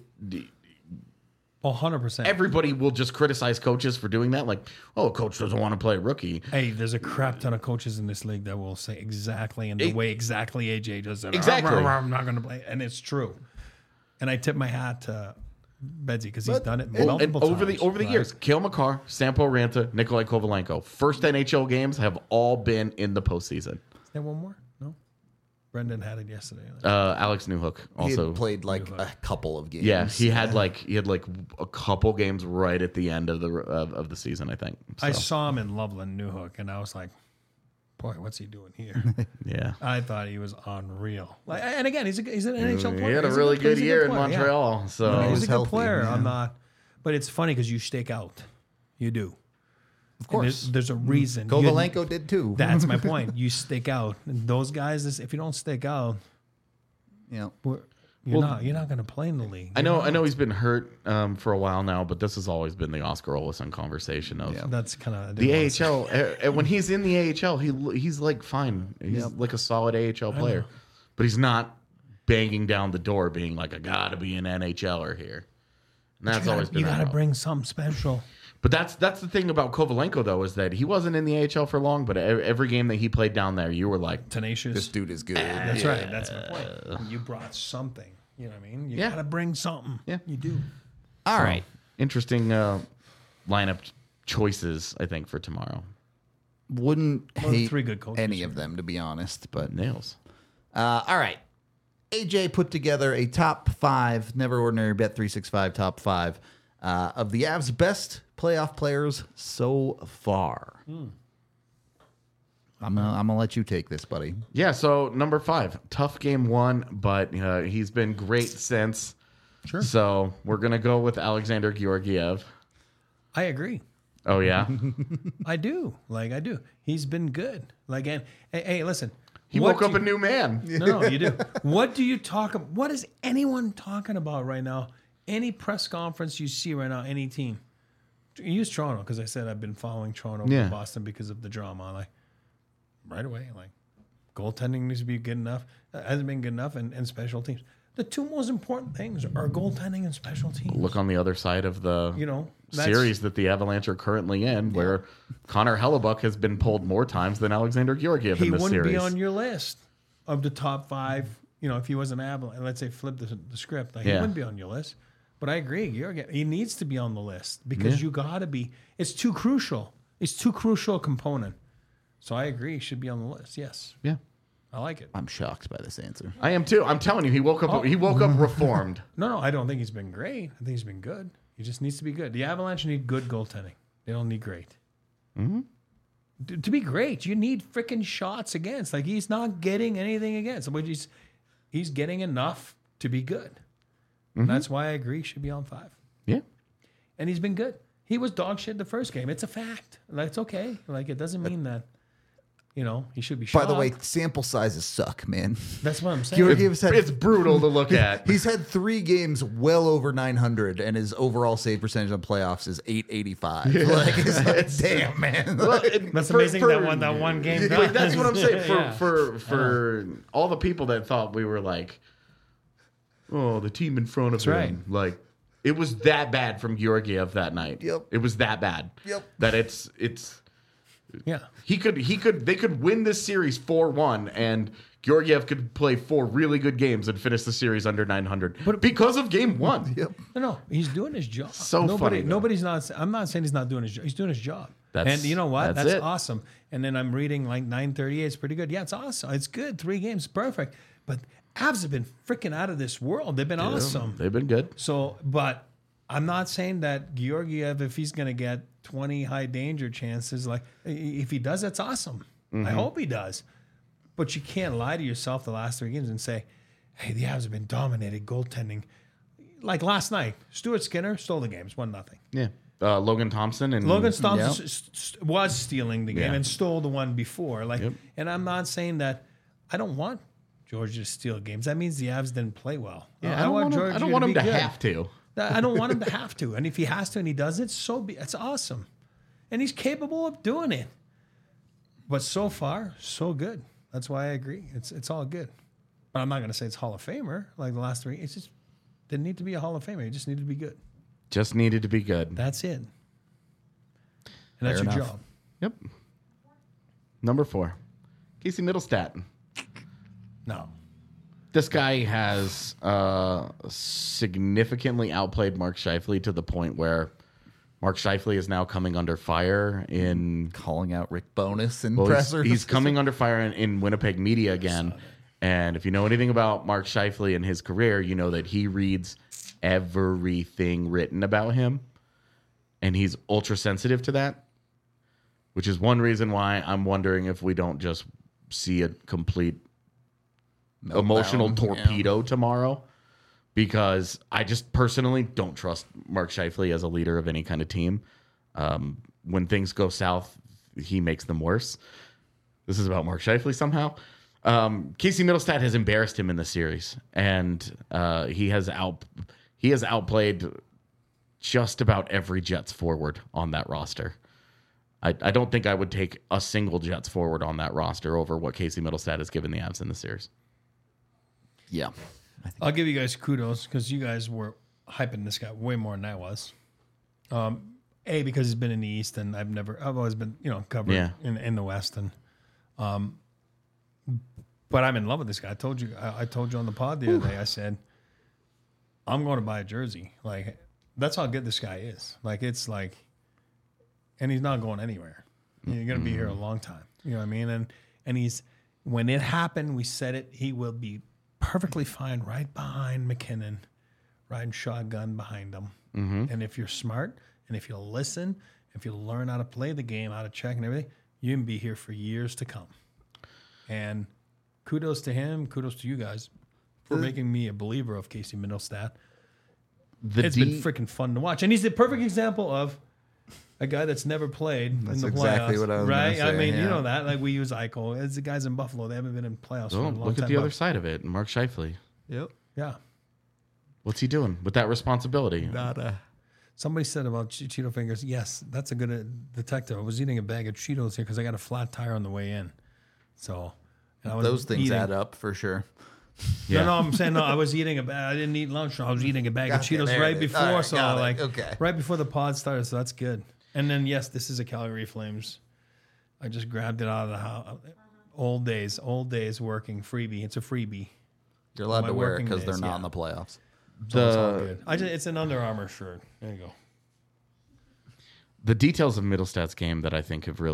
100%. Everybody will just criticize coaches for doing that. Like, a coach doesn't want to play a rookie. Hey, there's a crap ton of coaches in this league that will say exactly in the way exactly AJ does it. Exactly. I'm not going to play. And it's true. And I tip my hat to Bedsy because he's done it multiple times. Over the years, Cale Makar, Sampo Ranta, Nikolai Kovalenko, first NHL games have all been in the postseason. Is there one more? No? Brendan had it yesterday. Alex Newhook He also had played like a couple of games. Yeah, he had like a couple games right at the end of the season, I think. So, I saw him in Loveland, Newhook, and I was like, boy, what's he doing here? yeah. I thought he was unreal. And again, he's an NHL player. He had a He's really good player. year in Montreal. Yeah. So He's a good healthy, player. yeah. I'm not. But it's funny because you stake out. You do. Of course. There's a reason. Kovalenko did too. That's my point. You stick out. And those guys, if you don't stick out, Yeah. you're not going to play in the league. I know he's been hurt for a while now, but this has always been the Oscar Olsen conversation of That's kind of the AHL. When he's in the AHL, he's like fine. He's like a solid AHL player, but he's not banging down the door, being like, I gotta be an NHLer here. And that's always been. You got to that bring something special. But that's the thing about Kovalenko though, is that he wasn't in the AHL for long, but every game that he played down there, you were like, Tenacious. This dude is good. That's right. That's my point. You brought something. You know what I mean? You got to bring something. Yeah. You do. All right. interesting lineup choices, I think, for tomorrow. Wouldn't hate 3 good coaches, any of them, to be honest. But Nails. all right. AJ put together a top 5, Never Ordinary Bet365 top 5 of the Avs' best playoff players so far. I'm gonna let you take this, buddy. Yeah, so number 5, tough game 1, but he's been great since. Sure. So we're going to go with Alexander Georgiev. I agree. Oh, yeah? I do. I do. He's been good. And hey, listen. He woke up a new man. No, you do. What do you talk about? What is anyone talking about right now? Any press conference you see right now, any team. Use Toronto, because I said I've been following Toronto over Boston because of the drama. Right away, goaltending needs to be good enough. Hasn't been good enough, and special teams. The 2 most important things are goaltending and special teams. Look on the other side of the series that the Avalanche are currently in, where Connor Hellebuck has been pulled more times than Alexander Georgiev in this series. He wouldn't be on your list of the top 5. If he was an Avalanche, let's say flip the script, he wouldn't be on your list. But I agree, Georgiev, he needs to be on the list because you got to be. It's too crucial. It's too crucial a component. So I agree, he should be on the list. Yes. Yeah. I like it. I'm shocked by this answer. I am too. I'm telling you, he woke up. He woke up reformed. No, I don't think he's been great. I think he's been good. He just needs to be good. The Avalanche need good goaltending. They don't need great. Mm-hmm. To be great, you need freaking shots against. Like, he's not getting anything against. But he's getting enough to be good. And that's why I agree he should be on 5. Yeah. And he's been good. He was dog shit the first game. It's a fact. Like, it's okay. Like, it doesn't mean that, he should be shocked. By the way, sample sizes suck, man. That's what I'm saying. Georgiev's had, It's brutal to look at. he's had 3 games well over 900, and his overall save percentage on playoffs is 885. Like, it's like, damn, man. That's amazing that one game. Like, that's what I'm saying. Yeah. For all the people that thought we were like, oh, the team in front of him. right. Like, it was that bad from Georgiev that night. Yep. It was that bad. Yep. That it's Yeah. they could win this series 4-1, and Georgiev could play 4 really good games and finish the series under 900 because of game 1. Yep. No, he's doing his job. So funny, though. Nobody's not. I'm not saying he's not doing his job. He's doing his job. That's- and you know what? that's That's it. awesome. And then I'm reading like 938. It's pretty good. Yeah, it's awesome. It's good. 3 games, perfect. But Avs have been freaking out of this world. They've been awesome. They've been good. So, but I'm not saying that Georgiev, if he's going to get 20 high danger chances, like if he does, that's awesome. I hope he does. But you can't lie to yourself the last 3 games and say, hey, the Avs have been dominated goaltending. Like last night, Stuart Skinner stole the games, 1-0. Yeah. Logan Thompson and Logan Thompson was stealing the game Yeah. and stole the one before. Like, Yep. and I'm not saying that I don't want Georgia to steal games. That means the Avs didn't play well. I don't want him to be good. have to. I don't want him to have to. And if he has to and he does it, it's awesome. And he's capable of doing it. But so far, so good. That's why I agree. It's all good. But I'm not going to say it's Hall of Famer like the last 3. It's just didn't need to be a Hall of Famer. He just needed to be good. Just needed to be good. That's it. And that's Fair your enough. job. Yep. Number 4, Casey Middlestat. No. This guy has significantly outplayed Mark Scheifele to the point where Mark Scheifele is now coming under fire in... Calling out Rick Bowness and Well, pressers. he's coming under fire in Winnipeg media again. And if you know anything about Mark Scheifele and his career, you know that he reads everything written about him. And he's ultra sensitive to that, which is one reason why I'm wondering if we don't just see a complete emotional torpedo tomorrow, because I just personally don't trust Mark Scheifele as a leader of any kind of team. When things go south, he makes them worse. This is about Mark Scheifele somehow. Casey Middlestat has embarrassed him in the series, and he has outplayed just about every Jets forward on that roster. I don't think I would take a single Jets forward on that roster over what Casey Middlestat has given the Avs in the series. Yeah. I'll give you guys kudos because you guys were hyping this guy way more than I was. Because he's been in the East and I've always been, covered in the West. And, but I'm in love with this guy. I told you on the pod the other day, I said, I'm going to buy a jersey. Like, that's how good this guy is. Like, it's like, and he's not going anywhere. You're going to be here a long time. You know what I mean? And he's, when it happened, we said it, he will be perfectly fine right behind McKinnon, riding shotgun behind him. Mm-hmm. And if you're smart and if you'll listen, if you'll learn how to play the game, how to check and everything, you can be here for years to come. And kudos to him, kudos to you guys for making me a believer of Casey Middlestat. It's been freaking fun to watch. And he's the perfect example of a guy that's never played in the playoffs. Exactly what I was right? gonna say, I mean, yeah. you know that. Like we use Eichel. It's the guys in Buffalo. They haven't been in playoffs for a long time. Look at the other side of it. Mark Scheifele. Yep. Yeah. What's he doing with that responsibility? Nada. Somebody said about Cheeto fingers, yes, that's a good detective. I was eating a bag of Cheetos here because I got a flat tire on the way in. So, and I was Those things eating, add up for sure. Yeah. No, I'm saying I was eating I didn't eat lunch. I was eating a bag of Okay, Cheetos there right it is. before. All right, so got it. like, Okay. right before the pod started. So that's good. And then yes, this is a Calgary Flames. I just grabbed it out of the house. Old days working freebie. It's a freebie. You're allowed My to wear it working because they're days, not yeah. in the playoffs. So it's all good. It's an Under Armour shirt. There you go. The details of Middlestat's game that I think have really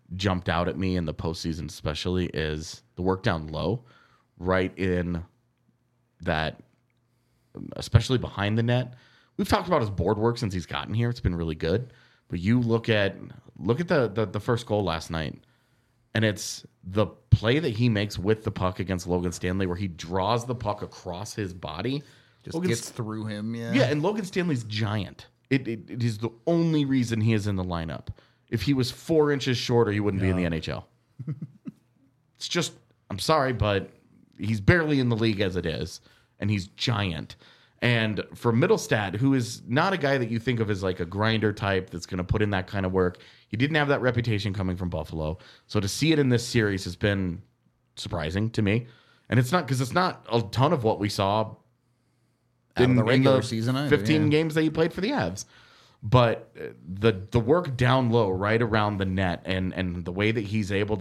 jumped out at me in the postseason, especially, is the work down low, right in that, especially behind the net. We've talked about his board work since he's gotten here. It's been really good. But you look at the first goal last night, and it's the play that he makes with the puck against Logan Stanley, where he draws the puck across his body. Just gets through him, yeah. Yeah, and Logan Stanley's giant. It is the only reason he is in the lineup. If he was 4 inches shorter, he wouldn't be in the NHL. It's just, I'm sorry, but he's barely in the league as it is, and he's giant. And for Mittelstadt, who is not a guy that you think of as like a grinder type that's going to put in that kind of work, he didn't have that reputation coming from Buffalo. So to see it in this series has been surprising to me. And it's not because it's not a ton of what we saw in the regular season either, 15 games that he played for the Avs. But the work down low, right around the net, and the way that he's able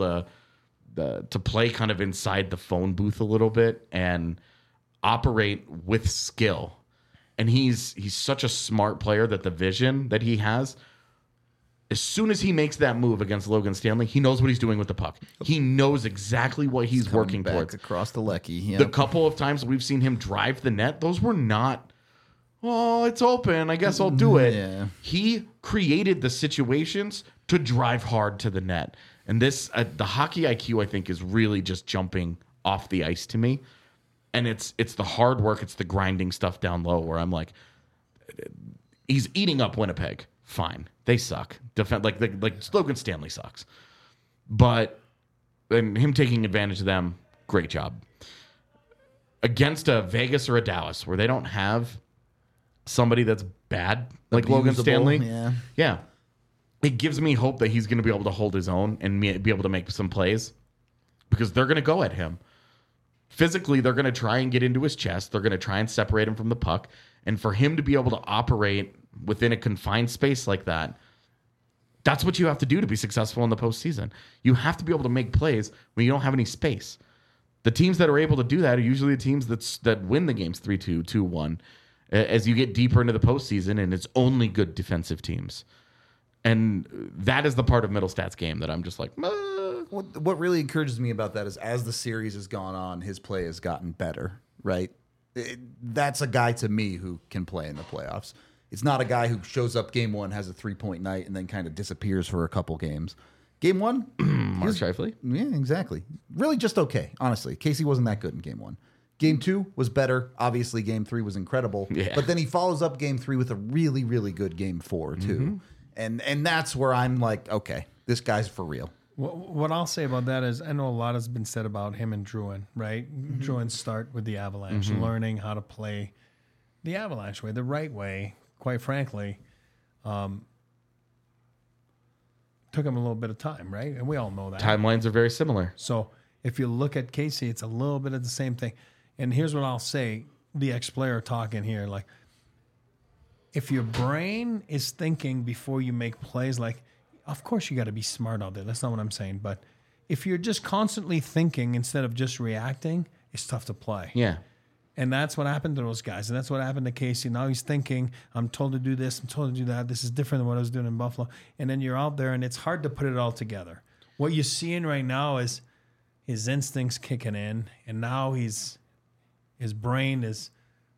to play kind of inside the phone booth a little bit and operate with skill. And he's such a smart player that the vision that he has, as soon as he makes that move against Logan Stanley, he knows what he's doing with the puck. He knows exactly what he's working towards. Across the Lecky. Yep. The couple of times we've seen him drive the net, those were not, oh, it's open, I guess I'll do it. Yeah. He created the situations to drive hard to the net. And this, the hockey IQ, I think, is really just jumping off the ice to me. And it's the hard work, it's the grinding stuff down low where I'm like, he's eating up Winnipeg. Fine, they suck. Like Logan Stanley sucks, but and him taking advantage of them, great job. Against a Vegas or a Dallas where they don't have somebody that's bad like Logan Stanley, yeah, it gives me hope that he's going to be able to hold his own and be able to make some plays because they're going to go at him. Physically, they're going to try and get into his chest. They're going to try and separate him from the puck. And for him to be able to operate within a confined space like that, that's what you have to do to be successful in the postseason. You have to be able to make plays when you don't have any space. The teams that are able to do that are usually the teams that win the games 3-2, 2-1, as you get deeper into the postseason, and it's only good defensive teams. And that is the part of Mittelstadt's game that I'm just like, What really encourages me about that is as the series has gone on, his play has gotten better, right? That's a guy to me who can play in the playoffs. It's not a guy who shows up game one, has a 3-point night, and then kind of disappears for a couple games. Game one, Mark Scheifele. Yeah, exactly. Really just okay, honestly. Casey wasn't that good in game one. Game two was better. Obviously, game three was incredible. Yeah. But then he follows up game three with a really, really good game four, too. Mm-hmm. And that's where I'm like, okay, this guy's for real. What I'll say about that is I know a lot has been said about him and Drouin, right? Mm-hmm. Drouin's start with the Avalanche, learning how to play the Avalanche way, the right way, quite frankly. Took him a little bit of time, right? And we all know that. Timelines are very similar. So if you look at Casey, it's a little bit of the same thing. And here's what I'll say, the ex-player talking here, like, if your brain is thinking before you make plays, like, of course you got to be smart out there. That's not what I'm saying. But if you're just constantly thinking instead of just reacting, it's tough to play. Yeah. And that's what happened to those guys. And that's what happened to Casey. Now he's thinking, I'm told to do this, I'm told to do that. This is different than what I was doing in Buffalo. And then you're out there, and it's hard to put it all together. What you're seeing right now is his instincts kicking in, and now his brain is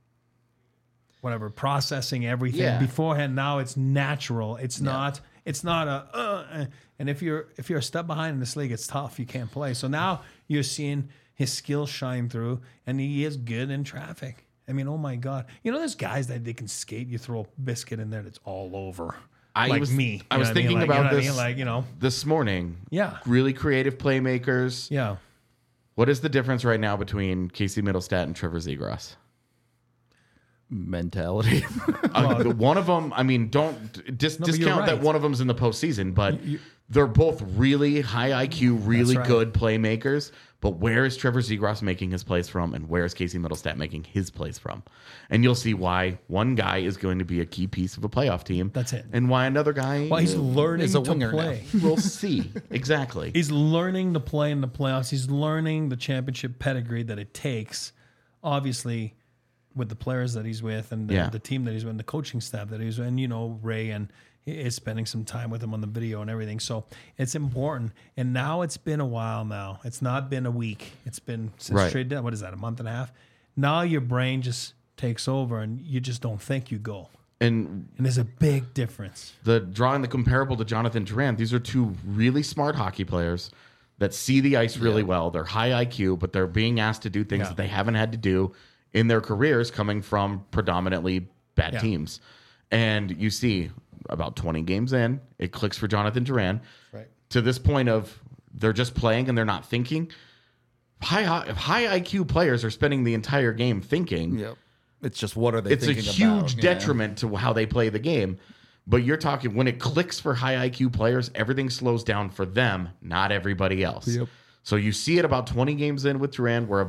processing everything. Yeah. Beforehand, now it's natural. It's not a and if you're a step behind in this league, it's tough. You can't play. So now you're seeing his skills shine through, and he is good in traffic. I mean, oh my God. You know, there's guys that they can skate. You throw a biscuit in there, that's all over. I was thinking about this this morning. Yeah. Really creative playmakers. Yeah. What is the difference right now between Casey Mittelstadt and Trevor Zegras? Mentality. One of them, I mean, don't discount that one of them's in the postseason, but they're both really high IQ, really good playmakers. But where is Trevor Zegras making his plays from, and where is Casey Mittelstadt making his plays from? And you'll see why one guy is going to be a key piece of a playoff team. That's it. And why another guy he's learning is a to winger play. We'll see. Exactly. He's learning to play in the playoffs. He's learning the championship pedigree that it takes, obviously, with the players that he's with and the team that he's with and the coaching staff that he's with, and, Ray and is spending some time with him on the video and everything. So it's important. And now it's been a while now. It's not been a week. It's been since trade deadline. What is that, a month and a half? Now your brain just takes over and you just don't think you go. And there's a big difference. Drawing the comparable to Jonathan Durant, these are two really smart hockey players that see the ice really well. They're high IQ, but they're being asked to do things that they haven't had to do in their careers coming from predominantly bad teams. And you see about 20 games in, it clicks for Jonathan Durant. Right. To this point of they're just playing and they're not thinking. If high IQ players are spending the entire game thinking. Yep. It's just what are they thinking about? It's a huge detriment to how they play the game. But you're talking when it clicks for high IQ players, everything slows down for them, not everybody else. Yep. So you see it about 20 games in with Durant. We're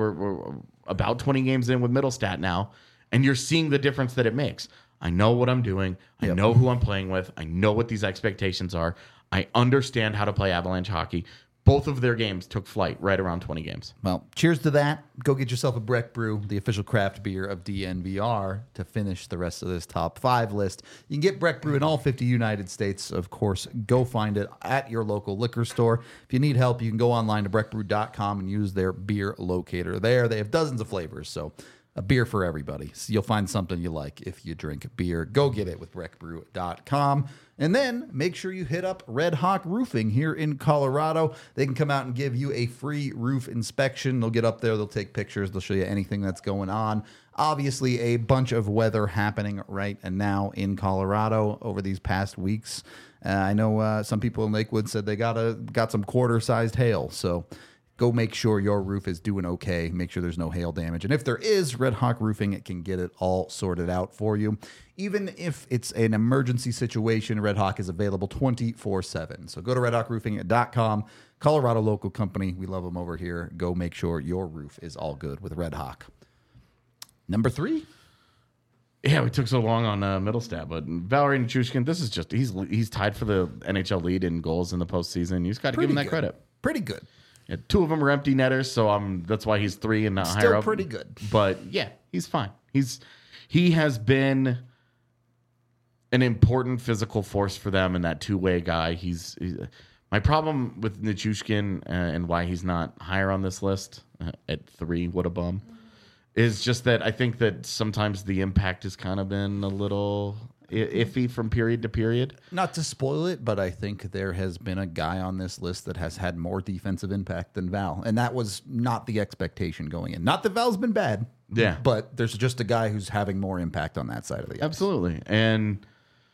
about 20 games in with Middlestat now, and you're seeing the difference that it makes. I know what I'm doing. I know who I'm playing with. I know what these expectations are. I understand how to play Avalanche hockey. Both of their games took flight right around 20 games. Well, cheers to that. Go get yourself a Breck Brew, the official craft beer of DNVR, to finish the rest of this top 5 list. You can get Breck Brew in all 50 United States. Of course, go find it at your local liquor store. If you need help, you can go online to breckbrew.com and use their beer locator there. They have dozens of flavors, so a beer for everybody. So you'll find something you like if you drink beer. Go get it with breckbrew.com. And then make sure you hit up Red Hawk Roofing here in Colorado. They can come out and give you a free roof inspection. They'll get up there. They'll take pictures. They'll show you anything that's going on. Obviously, a bunch of weather happening right now in Colorado over these past weeks. I know some people in Lakewood said they got some quarter-sized hail. So go make sure your roof is doing okay. Make sure there's no hail damage. And if there is, Red Hawk Roofing, it can get it all sorted out for you. Even if it's an emergency situation, Red Hawk is available 24/7. So go to redhawkroofing.com. Colorado local company. We love them over here. Go make sure your roof is all good with Red Hawk. Number 3. Yeah, we took so long on Middlestat, but Valeri Nichushkin, this is just he's tied for the NHL lead in goals in the postseason. You just got to give him that credit. Pretty good. Yeah, 2 of them are empty netters, so that's why he's 3 and not higher up. Still pretty good. But yeah, he's fine. He has been an important physical force for them and that two-way guy. He's my problem with Nichushkin and why he's not higher on this list at 3. What a bum! Is just that I think that sometimes the impact has kind of been a little iffy from period to period. Not to spoil it, but I think there has been a guy on this list that has had more defensive impact than Val. And that was not the expectation going in. Not that Val's been bad. Yeah. But there's just a guy who's having more impact on that side of the ice. Absolutely. And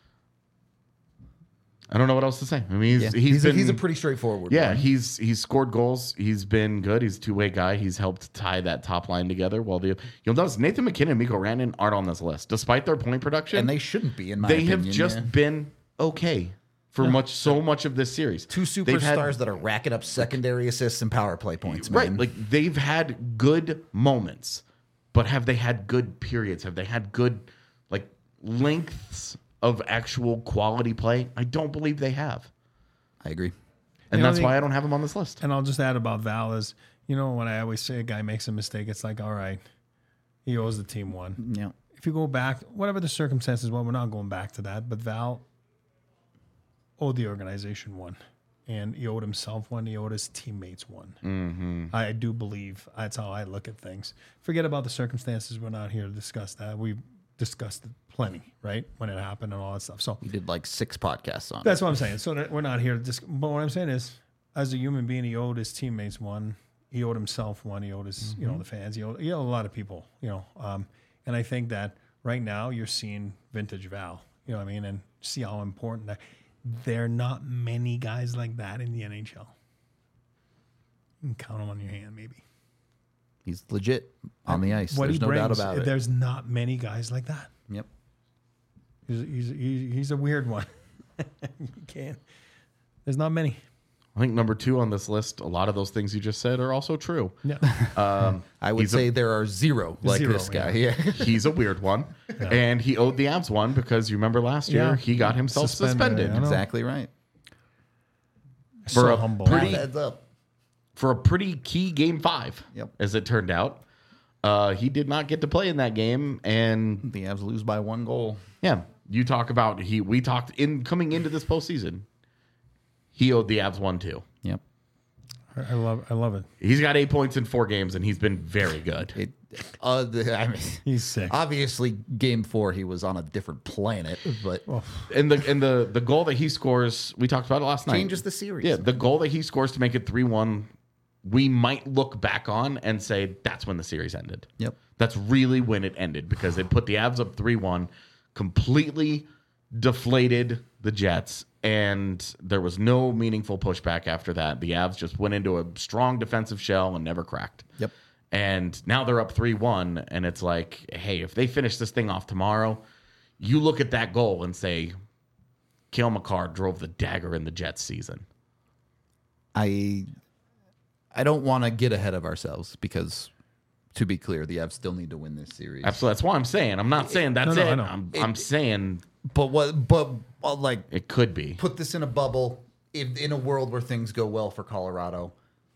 I don't know what else to say. I mean, he's a pretty straightforward one. He's scored goals. He's been good. He's a two-way guy. He's helped tie that top line together. While you'll notice Nathan McKinnon and Mikko Rantanen aren't on this list, despite their point production. And they shouldn't be, in my opinion. They have just been okay for so much of this series. 2 superstars that are racking up secondary assists and power play points, man. Right. Like, they've had good moments, but have they had good periods? Have they had good, lengths of actual quality play? I don't believe they have. I agree. And that's why I don't have him on this list. And I'll just add about Val is, when I always say a guy makes a mistake, it's like, all right, he owes the team one. Yeah. If you go back, whatever the circumstances, we're not going back to that, but Val owed the organization one. And he owed himself one. He owed his teammates one. Mm-hmm. I do believe that's how I look at things. Forget about the circumstances. We're not here to discuss that. We've discussed it plenty, right? When it happened and all that stuff. So we did 6 podcasts on it. That's what I'm saying. So we're not here to discuss. But what I'm saying is, as a human being, he owed his teammates one. He owed himself one. He owed his, the fans. He owed a lot of people, and I think that right now you're seeing vintage Val, you know what I mean? And see how important that. There are not many guys like that in the NHL. You can count them on your hand, maybe. He's legit on the ice. There's no doubt about it. There's not many guys like that. Yep. He's a weird one. You can't. There's not many. I think number 2 on this list, a lot of those things you just said are also true. Yeah. I would say there are zero this guy. Yeah. He's a weird one. Yeah. And he owed the Avs one because you remember last year he got himself suspended. Exactly right. For humble. For a pretty key game 5, as it turned out. He did not get to play in that game, and the Avs lose by 1 goal. Yeah, You talk about we talked in coming into this postseason. He owed the Avs 1-2. Yep. I love it. He's got 8 points in 4 games, and he's been very good. He's sick. Obviously, Game 4 he was on a different planet, but And the goal that he scores, we talked about it last night. changes the series. Yeah, the goal that he scores to make it 3-1, we might look back on and say that's when the series ended. Yep. That's really when it ended because it put the Avs up 3-1, completely deflated the Jets, and there was no meaningful pushback after that. The Avs just went into a strong defensive shell and never cracked. Yep. And now they're up 3-1, and it's like, hey, if they finish this thing off tomorrow, you look at that goal and say, Cale Makar drove the dagger in the Jets season. I don't want to get ahead of ourselves because, to be clear, the Avs still need to win this series. Absolutely. That's why I'm saying. I'm not saying that's No, it. I know. I'm saying But like it could be. put this in a bubble in a world where things go well for Colorado.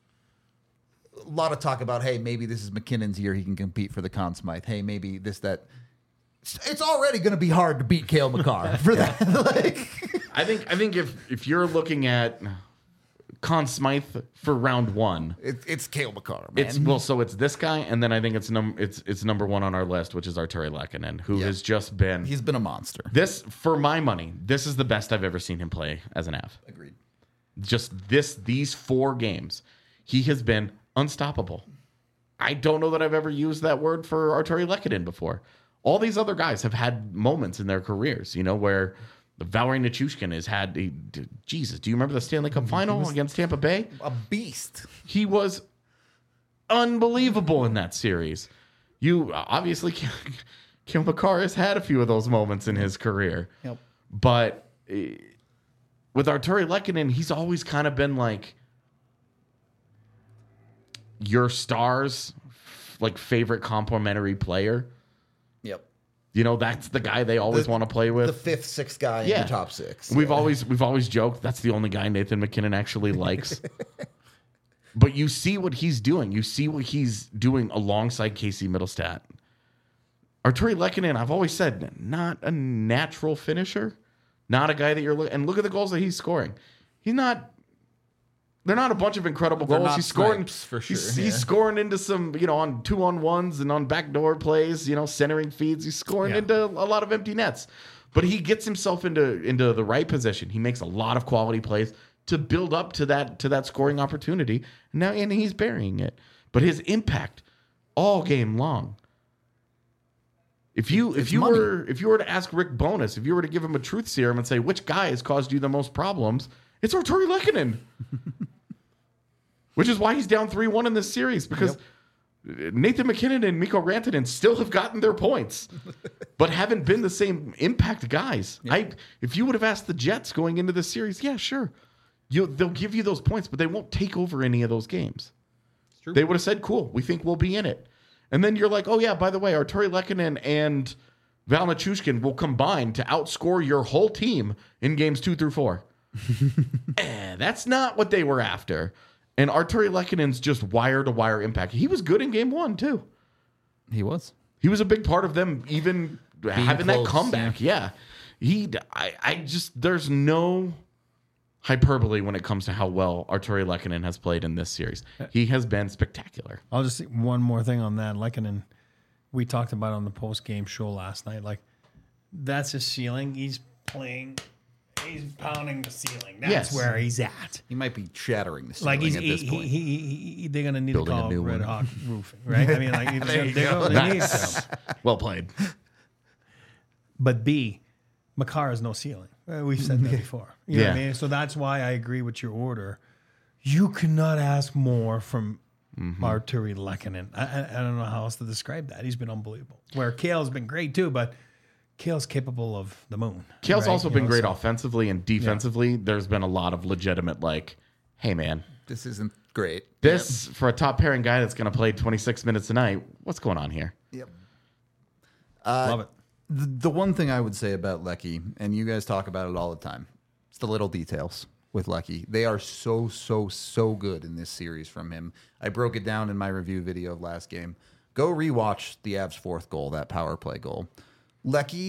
A lot of talk about, hey, maybe this is McKinnon's year. He can compete for the Conn Smythe. Hey, maybe this, that. It's already going to be hard to beat Cale Makar for that. I think if you're looking at Conn Smythe for round 1, it's Cale Makar, man. it's this guy, and then I think it's number 1 on our list, which is Arturi Lehkonen, who has just been He's been a monster. this, for my money, this is the best I've ever seen him play as an Av. Agreed. Just these 4 games, he has been unstoppable. I don't know that I've ever used that word for Arturi Lehkonen before. All these other guys have had moments in their careers, where Valeri Nichushkin has had. Jesus, do you remember the Stanley Cup final against Tampa Bay? A beast. He was unbelievable in that series. You obviously, Cale Makar has had a few of those moments in his career. Yep. But with Arturi Lehkonen, he's always kind of been like your star's favorite complimentary player. Yep. That's the guy they always want to play with. The 5th, 6th guy in the top 6. We've always joked that's the only guy Nathan McKinnon actually likes. But you see what he's doing. You see what he's doing alongside Casey Middlestat. Arturi Lehkonen, I've always said, not a natural finisher. Not a guy that you're looking. And look at the goals that he's scoring. They're not a bunch of incredible goals. He's scoring for sure. He's scoring into some, on 2-on-1s and on backdoor plays, centering feeds. He's scoring into a lot of empty nets. But he gets himself into the right position. He makes a lot of quality plays to build up to that scoring opportunity. And he's burying it. But his impact all game long. If you were to ask Rick Bowness, if you were to give him a truth serum and say which guy has caused you the most problems, it's Arturi Lehkonen. Which is why he's down 3-1 in this series, because Nathan McKinnon and Mikko Rantanen still have gotten their points, but haven't been the same impact guys. Yep. If you would have asked the Jets going into this series, yeah, sure. They'll give you those points, but they won't take over any of those games. They would have said, cool, we think we'll be in it. And then you're like, oh, yeah, by the way, Arturi Lehkonen and Val Nichushkin will combine to outscore your whole team in games 2 through 4. That's not what they were after. And Arturi Lehkonen's just wire-to-wire impact. He was good in game 1, too. He was. He was a big part of them even having close, that comeback. Yeah. There's no hyperbole when it comes to how well Arturi Lehkonen has played in this series. He has been spectacular. I'll just say one more thing on that. Lehkonen, we talked about on the post-game show last night. That's his ceiling. He's pounding the ceiling. That's where he's at. He might be shattering the ceiling at this point. They're going to need Building to call a new Red one. Hawk Roofing, right? I mean, they need to. Well played. But Makar has no ceiling. We've said that before. You know what I mean? So that's why I agree with your order. You cannot ask more from Arturi Lehkonen. I don't know how else to describe that. He's been unbelievable. Where Cale's been great too, but Cale's capable of the moon. Cale's also been great offensively and defensively. Yeah. There's been a lot of legitimate, hey, man. This isn't great. For a top pairing guy that's going to play 26 minutes a night, what's going on here? Yep. Love it. The one thing I would say about Lecky, and you guys talk about it all the time, it's the little details with Lecky. They are so good in this series from him. I broke it down in my review video of last game. Go rewatch the Avs' 4th goal, that power play goal. Lecky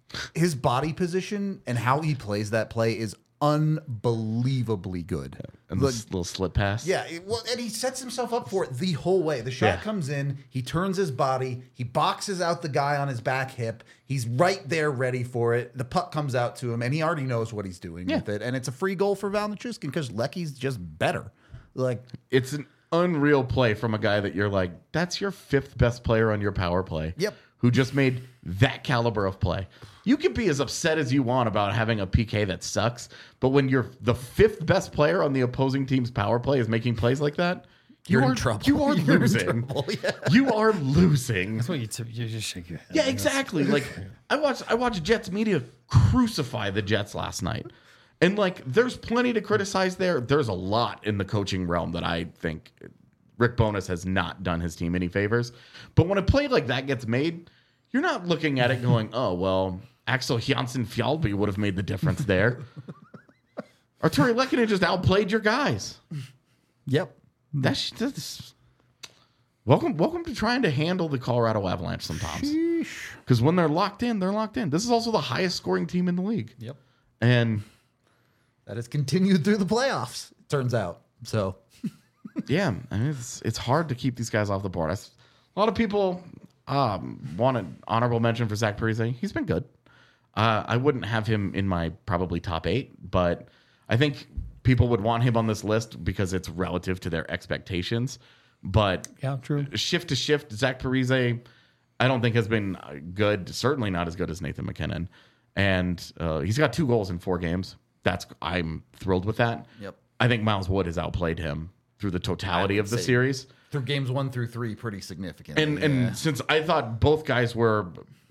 his body position and how he plays that play is unbelievably good. And this little slip pass. Yeah, and he sets himself up for it the whole way. The shot comes in, he turns his body, he boxes out the guy on his back hip. He's right there ready for it. The puck comes out to him, and he already knows what he's doing with it. And it's a free goal for Val Nichushkin because Lecky's just better. Like, it's an unreal play from a guy that you're like, that's your 5th best player on your power play. Yep. Who just made that caliber of play. You can be as upset as you want about having a PK that sucks, but when you're the 5th best player on the opposing team's power play is making plays like that, you're in trouble. You are You're in losing. trouble, yeah. You are losing. That's what you just shake your head. Yeah, exactly. Like I watched Jets media crucify the Jets last night. And like there's plenty to criticize there. There's a lot in the coaching realm that I think Rick Bowness has not done his team any favors. But when a play like that gets made, you're not looking at it going, oh, well, Axel Janssen Fjallby would have made the difference there. Arturi Lehkonen just outplayed your guys. Yep. That's welcome to trying to handle the Colorado Avalanche sometimes. Because when they're locked in, they're locked in. This is also the highest scoring team in the league. Yep. And that has continued through the playoffs, it turns out. So, yeah, I mean, it's hard to keep these guys off the board. A lot of people want an honorable mention for Zach Parise. He's been good. I wouldn't have him in my probably top 8, but I think people would want him on this list because it's relative to their expectations. But yeah, true. Shift to shift, Zach Parise, I don't think has been good. Certainly not as good as Nathan McKinnon. And he's got 2 goals in 4 games. I'm thrilled with that. Yep. I think Miles Wood has outplayed him through the totality of the series. Through games 1 through 3, pretty significant. And since I thought both guys were,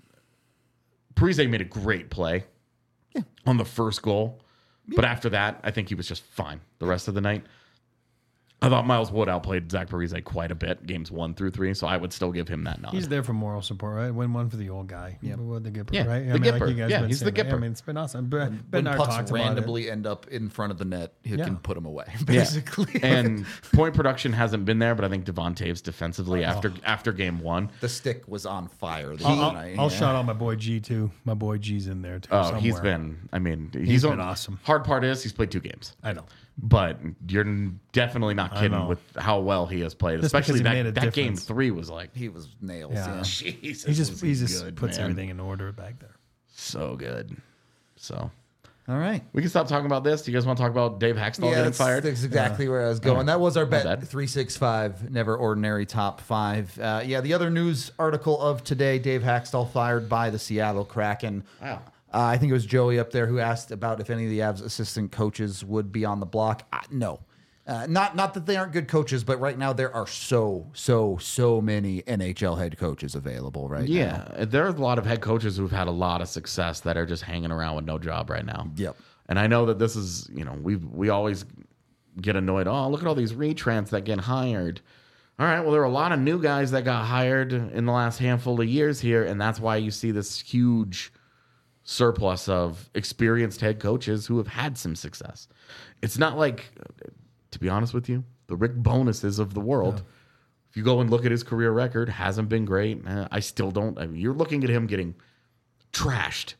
Parise made a great play on the first goal, but after that, I think he was just fine the rest of the night. I thought Miles Wood outplayed Zach Parise quite a bit, games 1 through 3, so I would still give him that nod. He's there for moral support, right? Win one for the old guy. Yeah. The Gipper, Yeah, right? the Gipper. Yeah, he's the Gipper. I mean, it's been awesome. when Bednar pucks talked about it. randomly end up in front of the net, he can put them away, Yeah. basically. And point production hasn't been there, but I think Devon Taves defensively after game 1. The stick was on fire the other night. I'll shout out my boy G too. My boy G's in there too. Oh, somewhere. he's been. I mean, He's been awesome. Hard part is he's played 2 games. I know. But you're definitely not kidding with how well he has played. Just Especially because he made a that game difference. 3 was like, He was nails. Yeah. Yeah. Jesus. He just good, puts man. everything in order back there. So good. So All right. we can stop talking about this. Do you guys want to talk about Dave Haxtell getting fired? That's exactly where I was going. That was our bet. bad. 365, never ordinary top 5. The other news article of today, Dave Haxtell fired by the Seattle Kraken. Wow. I think it was Joey up there who asked about if any of the Avs assistant coaches would be on the block. No. Not that they aren't good coaches, but right now there are so many NHL head coaches available right now. Yeah, there are a lot of head coaches who've had a lot of success that are just hanging around with no job right now. Yep. And I know that this is, we always get annoyed. Oh, look at all these retrans that get hired. All right, well, there are a lot of new guys that got hired in the last handful of years here, and that's why you see this huge surplus of experienced head coaches who have had some success. It's not like, to be honest with you, the Rick Bonuses of the world. If you go and look at his career record, hasn't been great. I still don't. I mean, you're looking at him getting trashed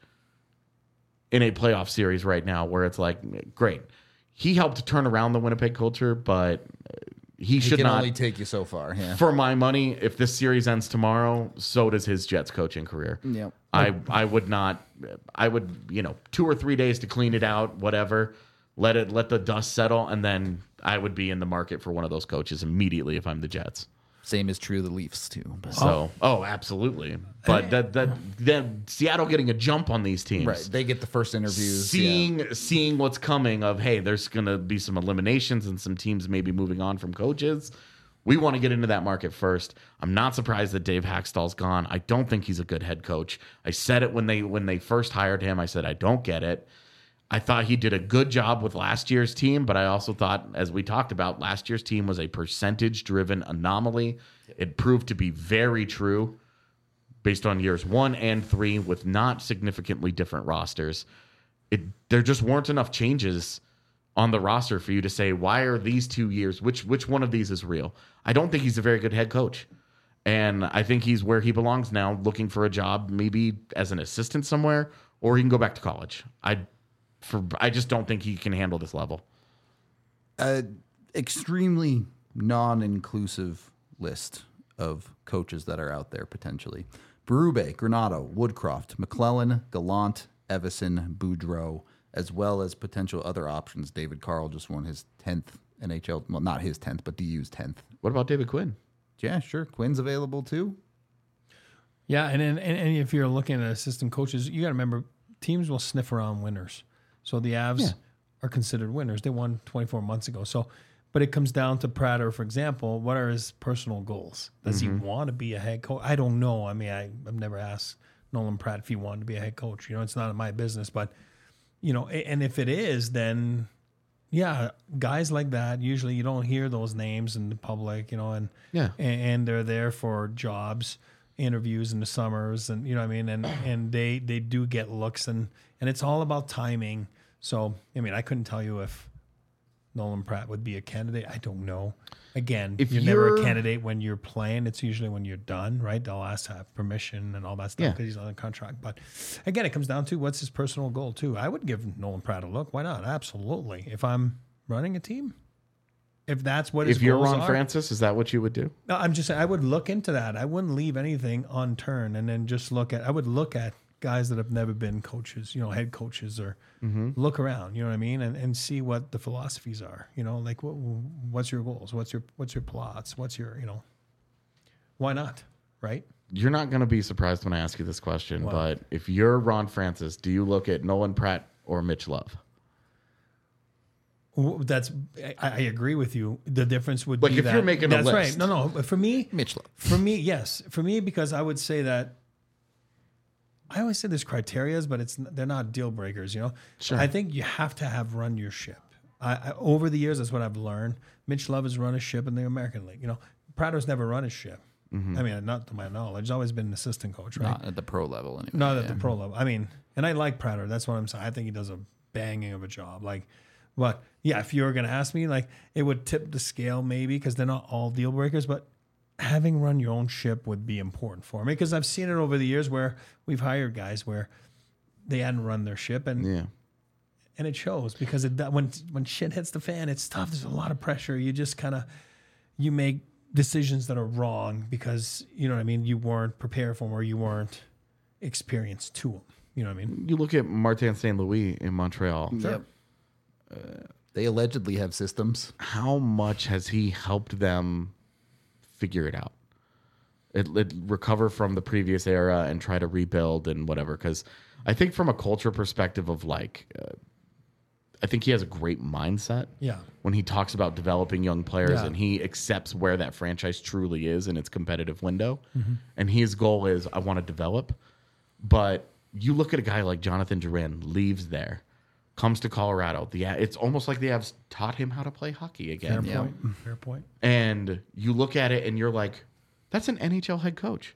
in a playoff series right now where it's like, great. He helped turn around the Winnipeg culture, but he should can not only take you so far. Yeah. For my money, if this series ends tomorrow, so does his Jets coaching career. Yep. I would not. I would 2 or 3 days to clean it out, whatever. Let the dust settle, and then I would be in the market for one of those coaches immediately if I'm the Jets. Same is true of the Leafs too. But. So, absolutely. But that Seattle getting a jump on these teams, Right, they get the first interviews. seeing what's coming of, hey, there's going to be some eliminations and some teams maybe moving on from coaches. We want to get into that market first. I'm not surprised that Dave Haxtell's gone. I don't think he's a good head coach. I said it when they first hired him. I said I don't get it. I thought he did a good job with last year's team, but I also thought, as we talked about, last year's team was a percentage-driven anomaly. It proved to be very true based on years 1 and 3 with not significantly different rosters. There just weren't enough changes on the roster for you to say, why are these 2 years, which one of these is real? I don't think he's a very good head coach. And I think he's where he belongs now, looking for a job maybe as an assistant somewhere or he can go back to college. I just don't think he can handle this level. Extremely non-inclusive list of coaches that are out there potentially. Berube, Granato, Woodcroft, McClellan, Gallant, Evison, Boudreau, as well as potential other options. David Carl just won his 10th NHL, well, not his 10th, but DU's 10th. What about David Quinn? Yeah, sure. Quinn's available too. Yeah, and if you're looking at assistant coaches, you got to remember teams will sniff around winners. So the Avs are considered winners. They won 24 months ago. So, but it comes down to Prater, for example. What are his personal goals? Does he want to be a head coach? I don't know. I mean, I've never asked Nolan Pratt if he wanted to be a head coach. You know, it's not my business. But, you know, and if it is, then, yeah, guys like that, usually you don't hear those names in the public, you know, and they're there for jobs, interviews in the summers, and you know what I mean, and they do get looks, and it's all about timing. So I mean, I couldn't tell you if Nolan Pratt would be a candidate. I don't know. Again, if you're never a candidate when you're playing. It's usually when you're done, right? They'll ask to have permission and all that stuff because he's on a contract. But again, it comes down to what's his personal goal too. I would give Nolan Pratt a look. Why not? Absolutely. If I'm running a team. If that's what his goals are. If you're Ron Francis, is that what you would do? No, I'm just saying I would look into that. I wouldn't leave anything unturned, and then just I would look at guys that have never been coaches, you know, head coaches, or look around, you know what I mean, and see what the philosophies are. You know, like what's your goals? What's your plots? What's your, you know, why not, right? You're not going to be surprised when I ask you this question, but if you're Ron Francis, do you look at Nolan Pratt or Mitch Love? I agree with you. The difference would be that. Like if you're making a list. That's right. No. For me, Mitch Love. For me, yes. For me, because I would say that I always say there's criterias, but they're not deal breakers. You know, sure. I think you have to have run your ship. I over the years, that's what I've learned. Mitch Love has run a ship in the American League. You know, Prater's never run a ship. I mean, not to my knowledge. He's always been an assistant coach, right? Not at the pro level, anyway. Not at the pro level. I mean, and I like Prater. That's what I'm saying. I think he does a banging of a job. But yeah, if you were going to ask me, it would tip the scale maybe because they're not all deal breakers, but having run your own ship would be important for me because I've seen it over the years where we've hired guys where they hadn't run their ship and it shows because when shit hits the fan, it's tough. There's a lot of pressure. You just you make decisions that are wrong because, you know what I mean, you weren't prepared for them or you weren't experienced to them. You know what I mean? You look at Martin St. Louis in Montreal. Sure. Yep. They allegedly have systems. How much has he helped them figure it out? It recover from the previous era and try to rebuild and whatever. Because I think from a culture perspective of I think he has a great mindset. Yeah. When he talks about developing young players and he accepts where that franchise truly is in its competitive window. And his goal is, I want to develop. But you look at a guy like Jonathan Drouin, leaves there, comes to Colorado. It's almost like the Avs taught him how to play hockey again. Fair point. And you look at it and you're like, that's an NHL head coach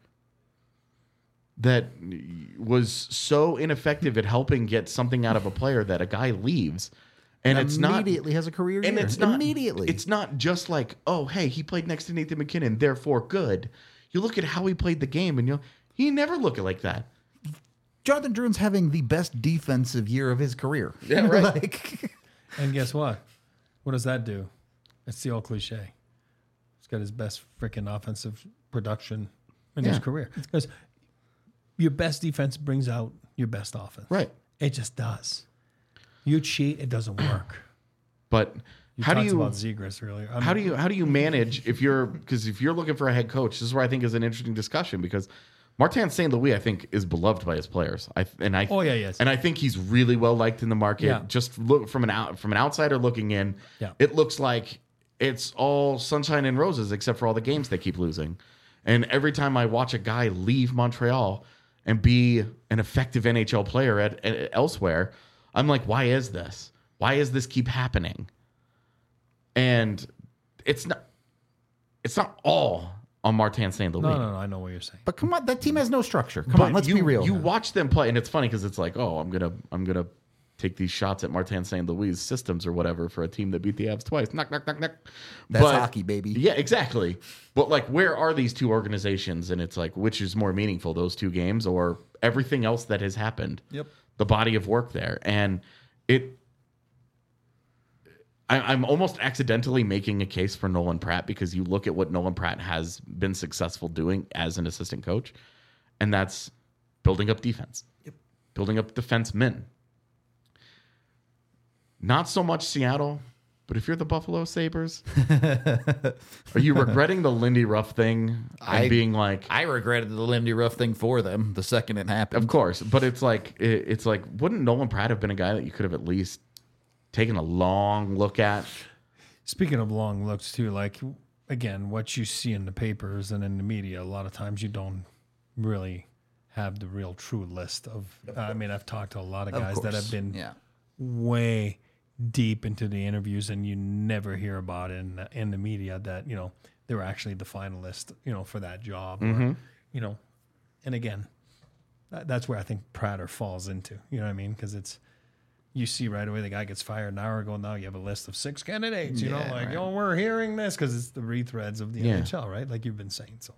that was so ineffective at helping get something out of a player that a guy leaves. And it's immediately has a career year. And it's not immediately. It's not just like, oh, hey, he played next to Nathan McKinnon, therefore good. You look at how he played the game and he never looked like that. Jonathan Drouin's having the best defensive year of his career. Yeah, right. And guess what? What does that do? It's the old cliche. He's got his best freaking offensive production in his career. Because your best defense brings out your best offense. Right. It just does. You cheat, it doesn't work. But how do you about Zegras earlier? How do you manage if you're looking for a head coach? This is where I think is an interesting discussion because Martin St. Louis, I think, is beloved by his players. And I think he's really well liked in the market. Yeah. Just look from an outsider looking in, it looks like it's all sunshine and roses except for all the games they keep losing. And every time I watch a guy leave Montreal and be an effective NHL player at elsewhere, I'm like, why is this? Why does this keep happening? And it's not all on Martin St. Louis. No, I know what you're saying. But come on, that team has no structure. Come on, let's be real. You watch them play, and it's funny because it's like, oh, I'm gonna take these shots at Martin St. Louis systems or whatever for a team that beat the Avs twice. Knock, knock, knock, knock. That's hockey, baby. Yeah, exactly. But like, where are these two organizations? And it's like, which is more meaningful, those two games or everything else that has happened? Yep. The body of work there. And I'm almost accidentally making a case for Nolan Pratt because you look at what Nolan Pratt has been successful doing as an assistant coach, and that's building up defense, building up defensemen. Not so much Seattle, but if you're the Buffalo Sabres, are you regretting the Lindy Ruff thing and being like... I regretted the Lindy Ruff thing for them the second it happened. Of course, but it's like, wouldn't Nolan Pratt have been a guy that you could have at least taken a long look at? Speaking of long looks too, like, again, what you see in the papers and in the media, a lot of times you don't really have the real true list of I mean, I've talked to a lot of guys that have been way deep into the interviews, and you never hear about it in the media that, you know, they were actually the finalist, you know, for that job. Or, you know, and again, that's where I think Prater falls into, you know what I mean? Because it's, you see right away the guy gets fired an hour ago. Now you have a list of 6 candidates. You know, like, right. We're hearing this because it's the retreads of the NHL, right? Like you've been saying. So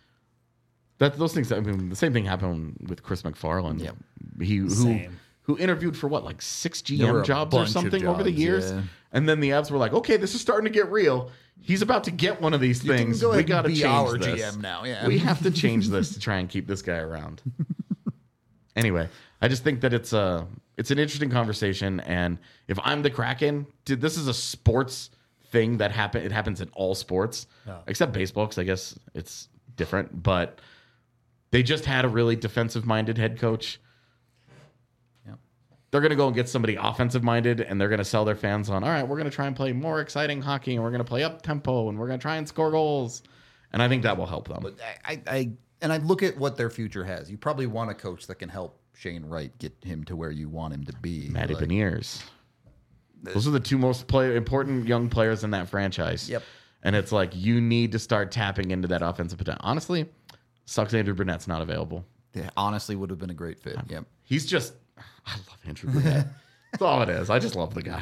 those things. I mean, the same thing happened with Chris McFarland. Yep. Who interviewed for what, like 6 GM jobs or something over the years, and then the Avs were like, okay, this is starting to get real. He's about to get one of these things. We got to change our this. GM now. Yeah, we have to change this to try and keep this guy around. Anyway, I just think that it's an interesting conversation, and if I'm the Kraken, dude, this is a sports thing that happen. It happens in all sports, except baseball, because I guess it's different. But they just had a really defensive-minded head coach. Yep. They're going to go and get somebody offensive-minded, and they're going to sell their fans on, all right, we're going to try and play more exciting hockey, and we're going to play up-tempo, and we're going to try and score goals. And I think that will help them. But I look at what their future has. You probably want a coach that can help Shane Wright get him to where you want him to be. Matty Beniers. Those are the two most important young players in that franchise. Yep. And it's like, you need to start tapping into that offensive potential. Honestly, sucks Andrew Burnett's not available. Yeah, honestly would have been a great fit. Yep. He's just, I love Andrew Burnett. That's all it is. I just love the guy.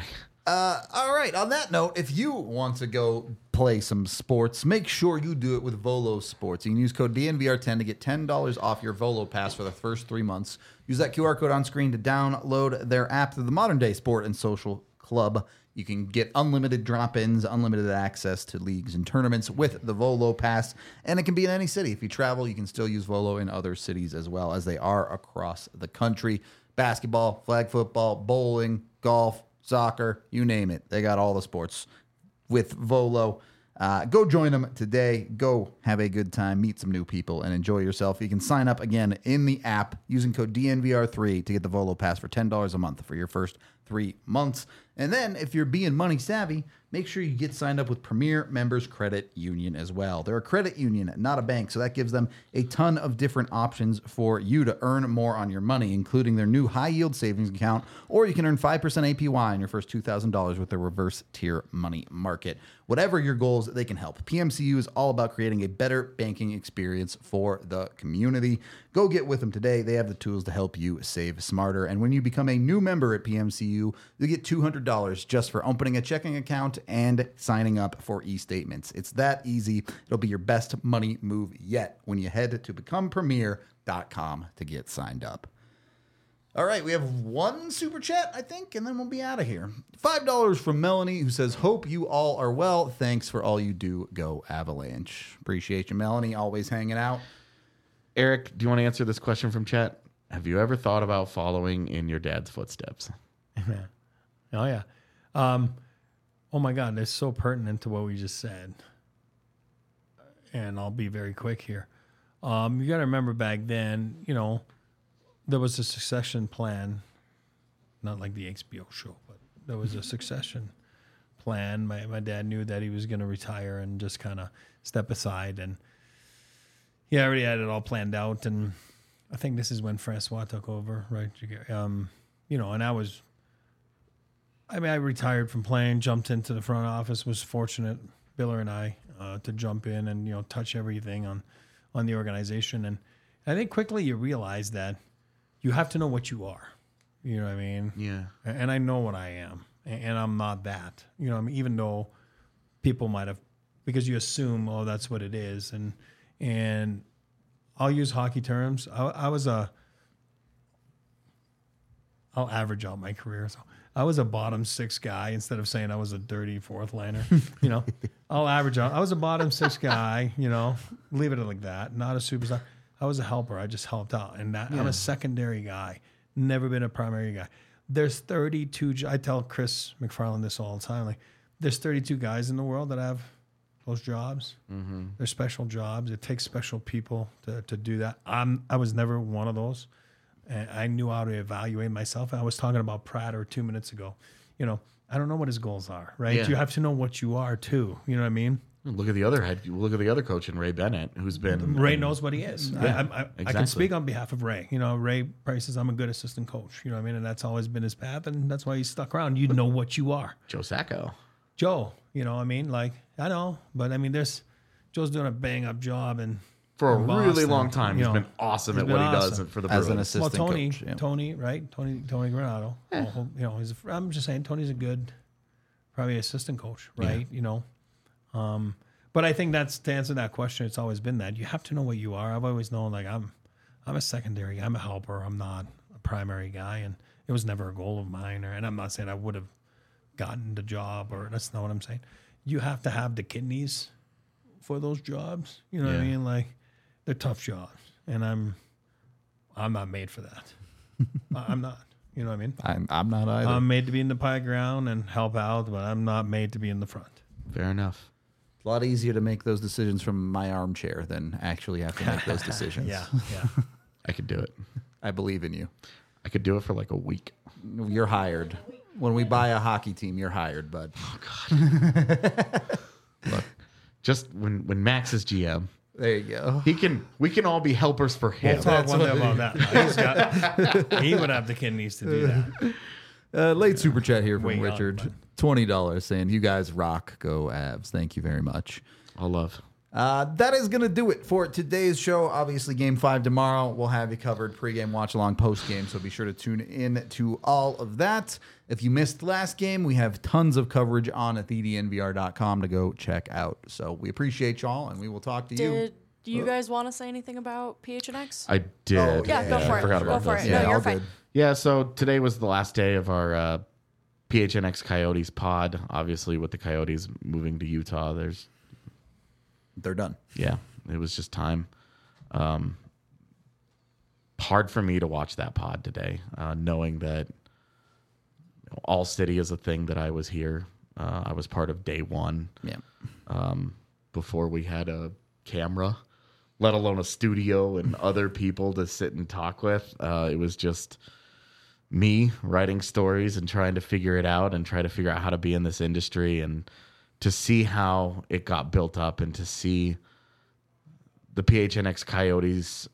All right. On that note, if you want to go play some sports, make sure you do it with Volo Sports. You can use code DNVR10 to get $10 off your Volo pass for the first 3 months. Use that QR code on screen to download their app to the modern day sport and social club. You can get unlimited drop-ins, unlimited access to leagues and tournaments with the Volo Pass, and it can be in any city. If you travel, you can still use Volo in other cities as well, as they are across the country. Basketball, flag football, bowling, golf, soccer, you name it. They got all the sports with Volo. Go join them today. Go have a good time, meet some new people, and enjoy yourself. You can sign up again in the app using code DNVR3 to get the Volo Pass for $10 a month for your first 3 months. And then if you're being money savvy, make sure you get signed up with Premier Members Credit Union as well. They're a credit union, not a bank, so that gives them a ton of different options for you to earn more on your money, including their new high-yield savings account, or you can earn 5% APY on your first $2,000 with their reverse tier money market. Whatever your goals, they can help. PMCU is all about creating a better banking experience for the community. Go get with them today. They have the tools to help you save smarter. And when you become a new member at PMCU, you get $200 just for opening a checking account and signing up for e-statements. It's that easy. It'll be your best money move yet when you head to becomepremier.com to get signed up. All right, we have one super chat, I think, and then we'll be out of here. $5 from Melanie, who says, hope you all are well. Thanks for all you do. Go Avalanche. Appreciate you, Melanie, always hanging out. Eric, do you want to answer this question from chat? Have you ever thought about following in your dad's footsteps? Oh, yeah. Oh, my God, that's so pertinent to what we just said. And I'll be very quick here. You got to remember back then, you know, there was a succession plan, not like the HBO show, but there was a succession plan. My dad knew that he was going to retire and just kind of step aside. And he already had it all planned out. And I think this is when Francois took over, right? You know, and I retired from playing, jumped into the front office, was fortunate, Biller and I, to jump in and, you know, touch everything on the organization. And I think quickly you realize that you have to know what you are. You know what I mean? Yeah. And I know what I am, and I'm not that. You know what I mean? Even though people might have, because you assume, oh, that's what it is. And I'll use hockey terms. I'll average out my career. So I was a bottom 6 guy instead of saying I was a dirty 4th liner. You know, I'll average out. I was a bottom 6 guy, you know, leave it like that. Not a superstar. I was a helper. I just helped out. And I'm a secondary guy, never been a primary guy. There's 32. I tell Chris McFarland this all the time. Like, there's 32 guys in the world that have those jobs. Mm-hmm. They're special jobs. It takes special people to do that. I was never one of those. And I knew how to evaluate myself. I was talking about Prater 2 minutes ago. You know, I don't know what his goals are, right? Yeah. You have to know what you are too. You know what I mean? Look at the other head. Look at the other coach in Ray Bennett, who's been Ray knows what he is. Yeah, I can speak on behalf of Ray. You know, Ray Price says I'm a good assistant coach. You know what I mean? And that's always been his path, and that's why he's stuck around. You know what you are. Joe Sacco. Joe, you know what I mean? Like, I know, but I mean, Joe's doing a bang up job and For a in really Boston, long time, you he's know, been awesome he's at been what he awesome. does for the As an Bruins. assistant Tony, coach. Yeah. Tony, right? Tony Granado. You know, I'm just saying Tony's a good, probably assistant coach, right? You know, but I think that's to answer that question. It's always been that you have to know what you are. I've always known like I'm a secondary. I'm a helper. I'm not a primary guy, and it was never a goal of mine. And I'm not saying I would have gotten the job, or that's not what I'm saying. You have to have the kidneys for those jobs. You know what I mean? Like, they're tough jobs, and I'm not made for that. I'm not. You know what I mean? I'm not either. I'm made to be in the pie ground and help out, but I'm not made to be in the front. Fair enough. It's a lot easier to make those decisions from my armchair than actually have to make those decisions. Yeah. I could do it. I believe in you. I could do it for like a week. You're hired. When we buy a hockey team, you're hired, bud. Look, just when Max is GM, There you go. we can all be helpers for him. We'll talk one day about that. He would have the kidneys to do that. Late super chat here from Way young, Richard. bud. $20 saying, you guys rock, go Avs. Thank you very much. All love. That is going to do it for today's show. Obviously, Game 5 tomorrow. We'll have you covered pregame, watch along, postgame, so be sure to tune in to all of that. If you missed last game, we have tons of coverage on at thednvr.com to go check out. So we appreciate y'all, and we will talk to you. Do you guys want to say anything about PHNX? I did. Oh, Yeah, go for I it. forgot Go about for this. it. Yeah, No, all you're fine. good. Yeah, so today was the last day of our PHNX Coyotes pod. Obviously, with the Coyotes moving to Utah, They're done. yeah, it was just time. Hard for me to watch that pod today, knowing that All City is a thing that I was here. I was part of day one. Yeah. Before we had a camera, let alone a studio and other people to sit and talk with. It was just me writing stories and trying to figure it out and try to figure out how to be in this industry and to see how it got built up and to see the PHNX Coyotes,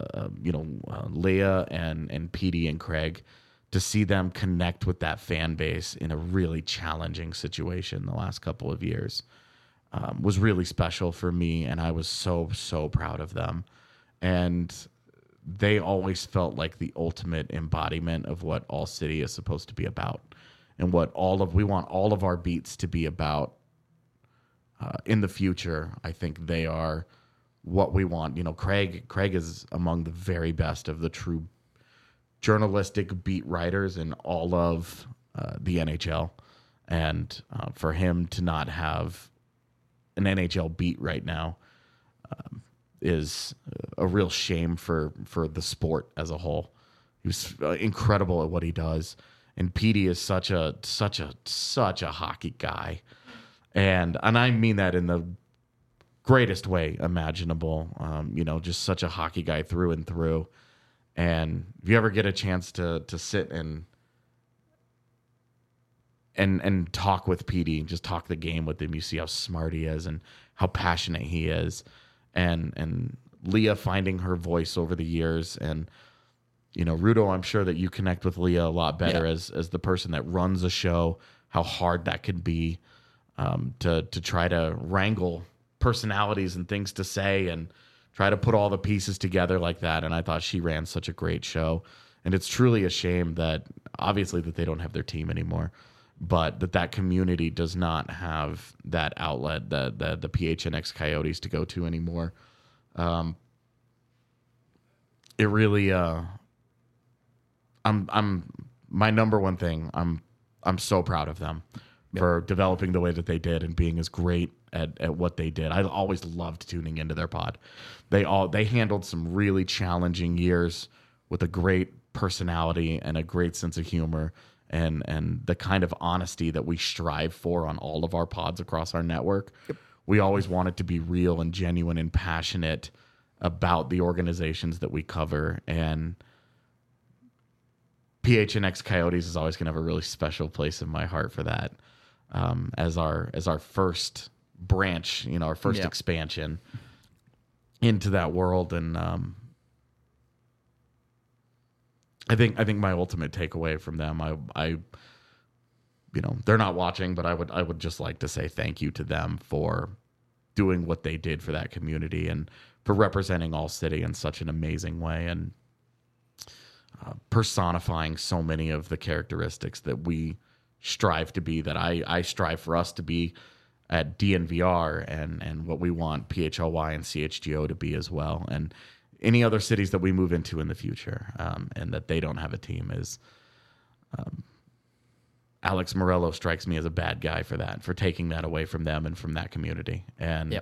Leah and Petey and Craig, to see them connect with that fan base in a really challenging situation the last couple of years was really special for me, and I was so proud of them. And they always felt like the ultimate embodiment of what All City is supposed to be about, and what we want all of our beats to be about in the future. I think they are what we want. You know, Craig is among the very best of the true journalistic beat writers in all of the NHL, and for him to not have an NHL beat right now is a real shame for the sport as a whole. He was incredible at what he does, and Petey is such a hockey guy, and I mean that in the greatest way imaginable. Just such a hockey guy through and through. And if you ever get a chance to sit and talk with Petey, just talk the game with him, you see how smart he is and how passionate he is. And Leah finding her voice over the years. And, Rudo, I'm sure that you connect with Leah a lot better as the person that runs a show, how hard that can be to try to wrangle personalities and things to say and try to put all the pieces together like that. And I thought she ran such a great show. And it's truly a shame that obviously that they don't have their team anymore, but that community does not have that outlet, the PHNX Coyotes to go to anymore. It really, I'm my number one thing. I'm so proud of them for developing the way that they did and being as great at what they did. I always loved tuning into their pod. They handled some really challenging years with a great personality and a great sense of humor and the kind of honesty that we strive for on all of our pods across our network. We always want it to be real and genuine and passionate about the organizations that we cover, and PHNX Coyotes is always going to have a really special place in my heart for that. As our first branch, our first expansion into that world, and I think my ultimate takeaway from them, I they're not watching, but I would just like to say thank you to them for doing what they did for that community and for representing All City in such an amazing way and personifying so many of the characteristics that we strive to be, that I strive for us to be at DNVR, and what we want PHLY and CHGO to be as well, and any other cities that we move into in the future, and that they don't have a team is Alex Morello strikes me as a bad guy for that, for taking that away from them and from that community. And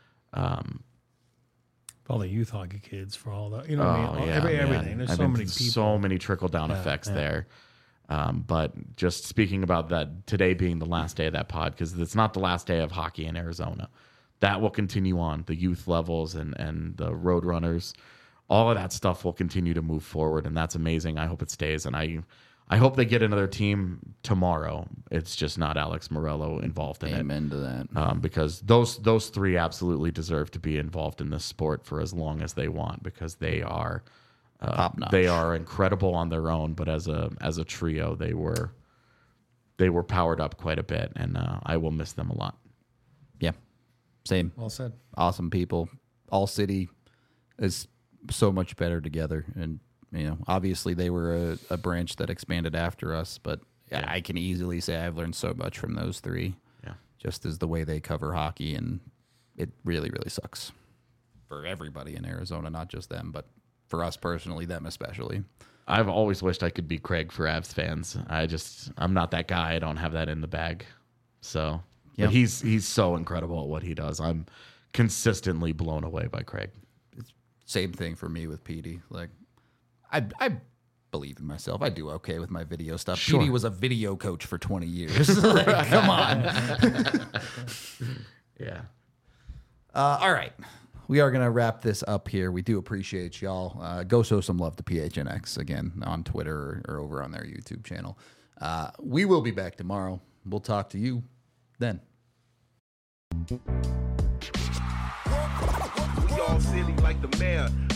all the youth hockey kids, for all the everything. There's so many people, so many trickle down effects there. But just speaking about that, today being the last day of that pod, because it's not the last day of hockey in Arizona. That will continue on. The youth levels and the road runners, all of that stuff will continue to move forward, and that's amazing. I hope it stays, and I hope they get another team tomorrow. It's just not Alex Morello involved in it. Amen to that. Because those three absolutely deserve to be involved in this sport for as long as they want, because they are top-notch. They are incredible on their own, but as a trio, they were powered up quite a bit, and I will miss them a lot. Yeah, same. Well said. Awesome people. All City is so much better together, and obviously they were a branch that expanded after us, but I can easily say I've learned so much from those three. Yeah, just as the way they cover hockey, and it really, really sucks for everybody in Arizona, not just them, but for us personally, them especially. I've always wished I could be Craig for Avs fans. I'm not that guy. I don't have that in the bag. So, but he's so incredible at what he does. I'm consistently blown away by Craig. Same thing for me with Petey. Like, I believe in myself. I do okay with my video stuff. Sure. Petey was a video coach for 20 years. Like, come on. Yeah. All right. We are going to wrap this up here. We do appreciate y'all. Go show some love to PHNX again on Twitter or over on their YouTube channel. We will be back tomorrow. We'll talk to you then. We all silly like the mayor.